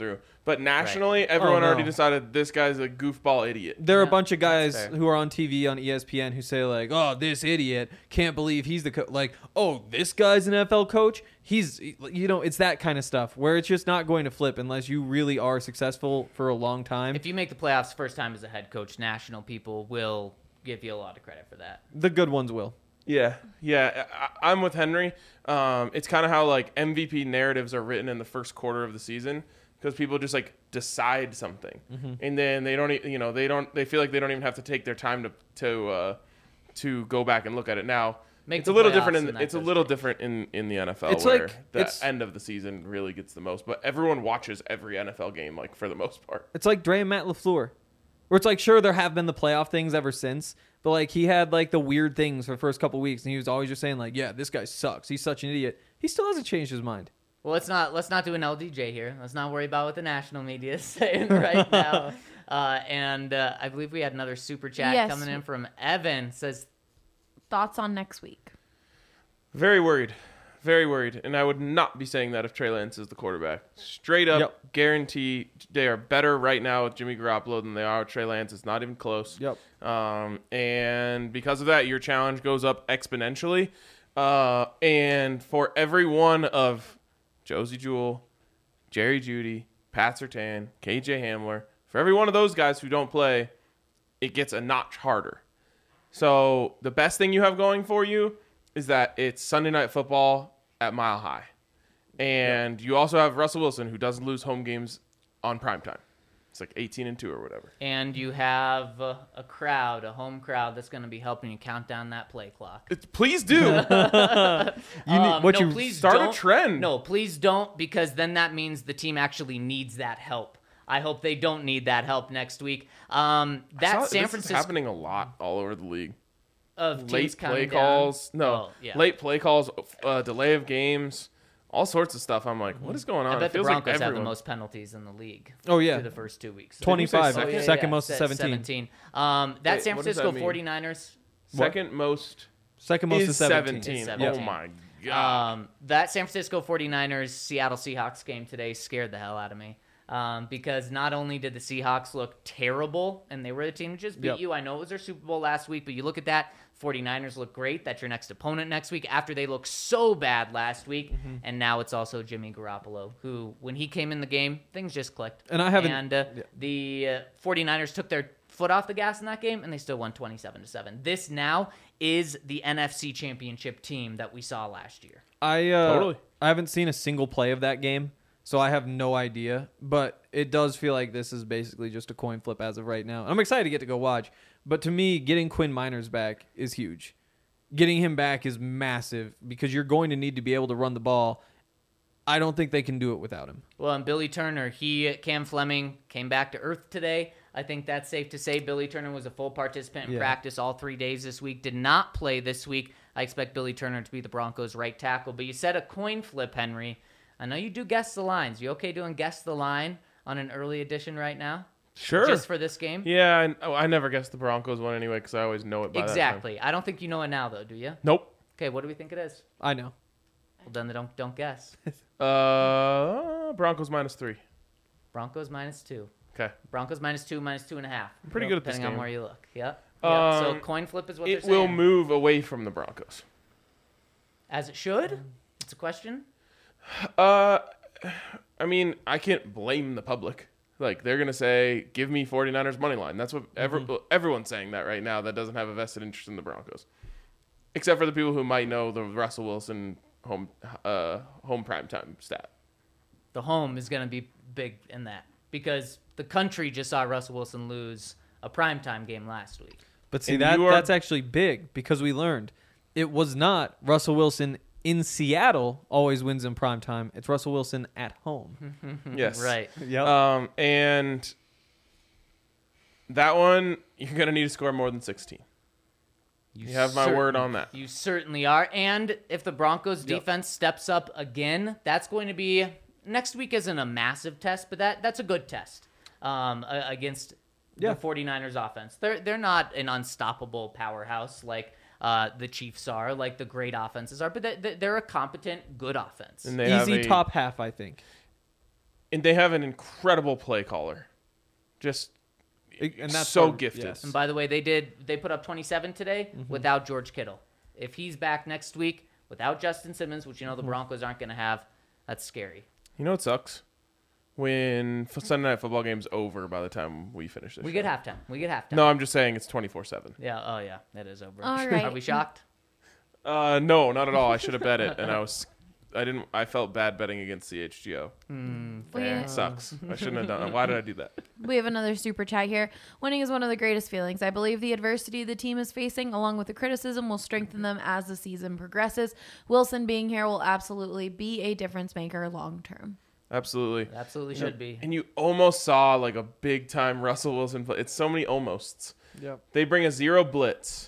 But nationally, everyone no. already decided this guy's a goofball idiot. There are a Yeah, bunch of guys that's fair. who are on TV on ESPN who say like, "Oh, this idiot can't believe he's the like, oh, this guy's an NFL coach. He's it's that kind of stuff where it's just not going to flip unless you really are successful for a long time. If you make the playoffs first time as a head coach, national people will give you a lot of credit for that. The good ones will. Yeah. I'm with Henry. It's kind of how like MVP narratives are written in the first quarter of the season because people just like decide something, and then they don't, they feel like they don't even have to take their time to go back and look at it now. Make It's the a little playoffs different and that it's a goes little straight. different in the NFL It's where like- the it's- end of the season really gets the most, but everyone watches every NFL game like for the most part. It's like Dre and Matt LaFleur, where it's like, sure, there have been the playoff things ever since, but like he had like the weird things for the first couple weeks, and he was always just saying like, yeah, this guy sucks. He's such an idiot. He still hasn't changed his mind. Well, let's not do an LDJ here. Let's not worry about what the national media is saying right now. And I believe we had another super chat Yes. coming in from Evan. Says, Thoughts on next week? Very worried. Very worried. And I would not be saying that if Trey Lance is the quarterback. Straight up, Yep. guarantee they are better right now with Jimmy Garoppolo than they are with Trey Lance. It's not even close. Yep. And because of that, your challenge goes up exponentially. And for every one of Josie Jewell, Jerry Jeudy, Pat Surtain, KJ Hamler, for every one of those guys who don't play, it gets a notch harder. So the best thing you have going for you is that it's Sunday Night Football at Mile High. And you also have Russell Wilson, who doesn't lose home games on primetime. It's like 18-2 or whatever. and you have a home crowd that's going to be helping you count down that play clock. Please do. Please start a don't. trend. No, please don't, because then that means the team actually needs that help. I hope they don't need that help next week. San This is Francisco happening a lot all over the league. of teams Late play counting down. calls. No, Oh, yeah. late play calls, delay of games, all sorts of stuff. I'm like, what is going on? I It bet the feels like Broncos have the everyone- most penalties in the league. Oh, yeah. through the first 2 weeks. 25, Did you say second most is 17. 17. That Wait, San what does Francisco that mean? 49ers. Second most Second most is is 17. 17. Is Oh 17. my god. That San Francisco 49ers Seattle Seahawks game today scared the hell out of me. Because not only did the Seahawks look terrible, and they were the team who just beat Yep. you. I know it was their Super Bowl last week, but you look at that, 49ers look great. That's your next opponent next week after they looked so bad last week. Mm-hmm. And now it's also Jimmy Garoppolo, who, when he came in the game, things just clicked. And I haven't- And the 49ers took their foot off the gas in that game, and they still won 27-7. This now is the NFC Championship team that we saw last year. Totally. I haven't seen a single play of that game, so I have no idea. But it does feel like this is basically just a coin flip as of right now. I'm excited to get to go watch. But to me, getting Quinn Miners back is huge. Getting him back is massive because you're going to need to be able to run the ball. I don't think they can do it without him. Well, and Billy Turner, Cam Fleming came back to earth today. I think that's safe to say. Billy Turner was a full participant in Yeah. practice all 3 days this week. Did not play this week. I expect Billy Turner to be the Broncos' right tackle. But you said a coin flip, Henry. I know you do guess the lines. You okay doing guess the line on an early edition right now? Sure. Just for this game? Yeah, I never guessed the Broncos one anyway because I always know it by that time. Exactly. I don't think you know it now, though, do you? Nope. Okay, what do we think it is? I know. Well, then don't guess. Broncos -3. Broncos -2. Okay. Broncos -2, -2.5. I'm pretty good at this depending on game. where you look. Yep. So Um, coin flip is what It they're will saying. move away from the Broncos. As it should. It's a question. I mean, I can't blame the public. Like, they're going to say, give me 49ers money line. That's what everyone's saying that right now that doesn't have a vested interest in the Broncos. Except for the people who might know the Russell Wilson home primetime stat. The home is going to be big in that because the country just saw Russell Wilson lose a primetime game last week. But see, And that you are- that's actually big because we learned it was not Russell Wilson in Seattle always wins in prime time. It's Russell Wilson at home. Yes. Right. Yep. And that one, you're going to need to score more than 16. You have my word on that. You certainly are. And if the Broncos defense steps up again, that's going to be next week isn't a massive test, but that's a good test against Yeah. the 49ers offense. They're not an unstoppable powerhouse like the Chiefs are, like the great offenses are, but they're a competent, good offense. And they have Easy a- top half, I think. And they have an incredible play caller. Just And that's so hard- gifted. yes. And by the way, they put up 27 today without George Kittle. If he's back next week without Justin Simmons, which the Broncos aren't going to have, that's scary. You know what sucks? When Sunday Night Football game's over by the time we finish this We show. get halftime. No, I'm just saying it's 24/7. Yeah. Oh yeah, that is over. All right. Are we shocked? No, not at all. I should have bet it, and I felt bad betting against CHGO. We, Sucks. I shouldn't have done it. Why did I do that? we have another super chat here. Winning is one of the greatest feelings. I believe the adversity the team is facing, along with the criticism, will strengthen them as the season progresses. Wilson being here will absolutely be a difference maker long term. Absolutely. Absolutely should be. And you almost saw like a big time Russell Wilson play. It's so many almosts. Yep. They bring a zero blitz,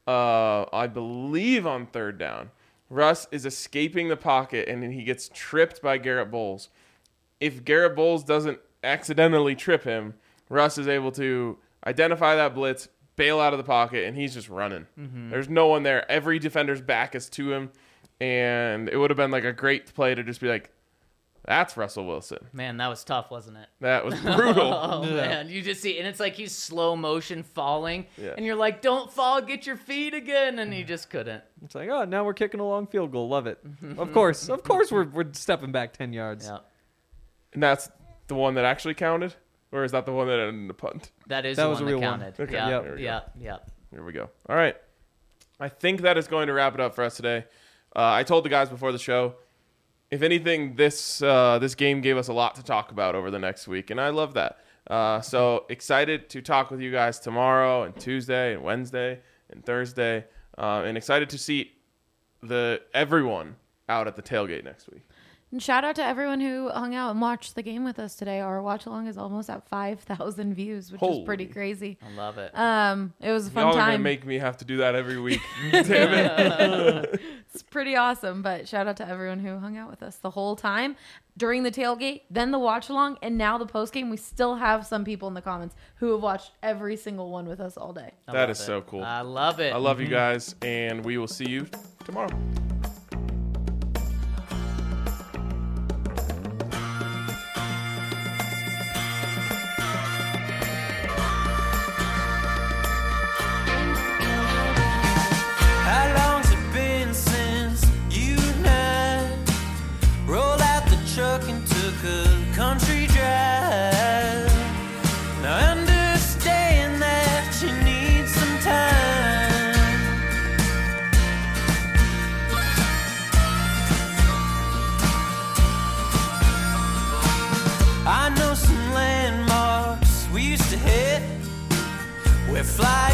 I believe on third down. Russ is escaping the pocket and then he gets tripped by Garrett Bowles. If Garrett Bowles doesn't accidentally trip him, Russ is able to identify that blitz, bail out of the pocket, and he's just running. There's no one there. Every defender's back is to him, and it would have been like a great play to just be like, that's Russell Wilson. Man, that was tough, wasn't it? That was brutal. Oh man, you just see, and it's like he's slow motion falling, Yeah. and you're like, "Don't fall, get your feet again," and he just couldn't. It's like, oh, now we're kicking a long field goal. Love it. Of course, we're stepping back 10 yards. Yeah, And that's the one that actually counted? Or is that the one that ended in a punt? that is That the was one a real that one. counted. Okay, Yeah, there we go. yeah. Here we go. All right. I think that is going to wrap it up for us today. I told the guys before the show, if anything, this game gave us a lot to talk about over the next week, and I love that. So excited to talk with you guys tomorrow and Tuesday and Wednesday and Thursday, and excited to see everyone out at the tailgate next week. And shout out to everyone who hung out and watched the game with us today. Our watch along is almost at 5,000 views, which is pretty Holy. crazy. I love it. It was a fun Y'all are going to time. make me have to do that every week. Damn it. It's pretty awesome. But shout out to everyone who hung out with us the whole time during the tailgate, then the watch along, and now the post game. We still have some people in the comments who have watched every single one with us all day. I That love is it. so cool. I love it. I love you guys, and we will see you tomorrow. How long's it been since you and I rolled out the truck and took a country drive? Now I understand that you need some time. I know some landmarks we used to hit where fly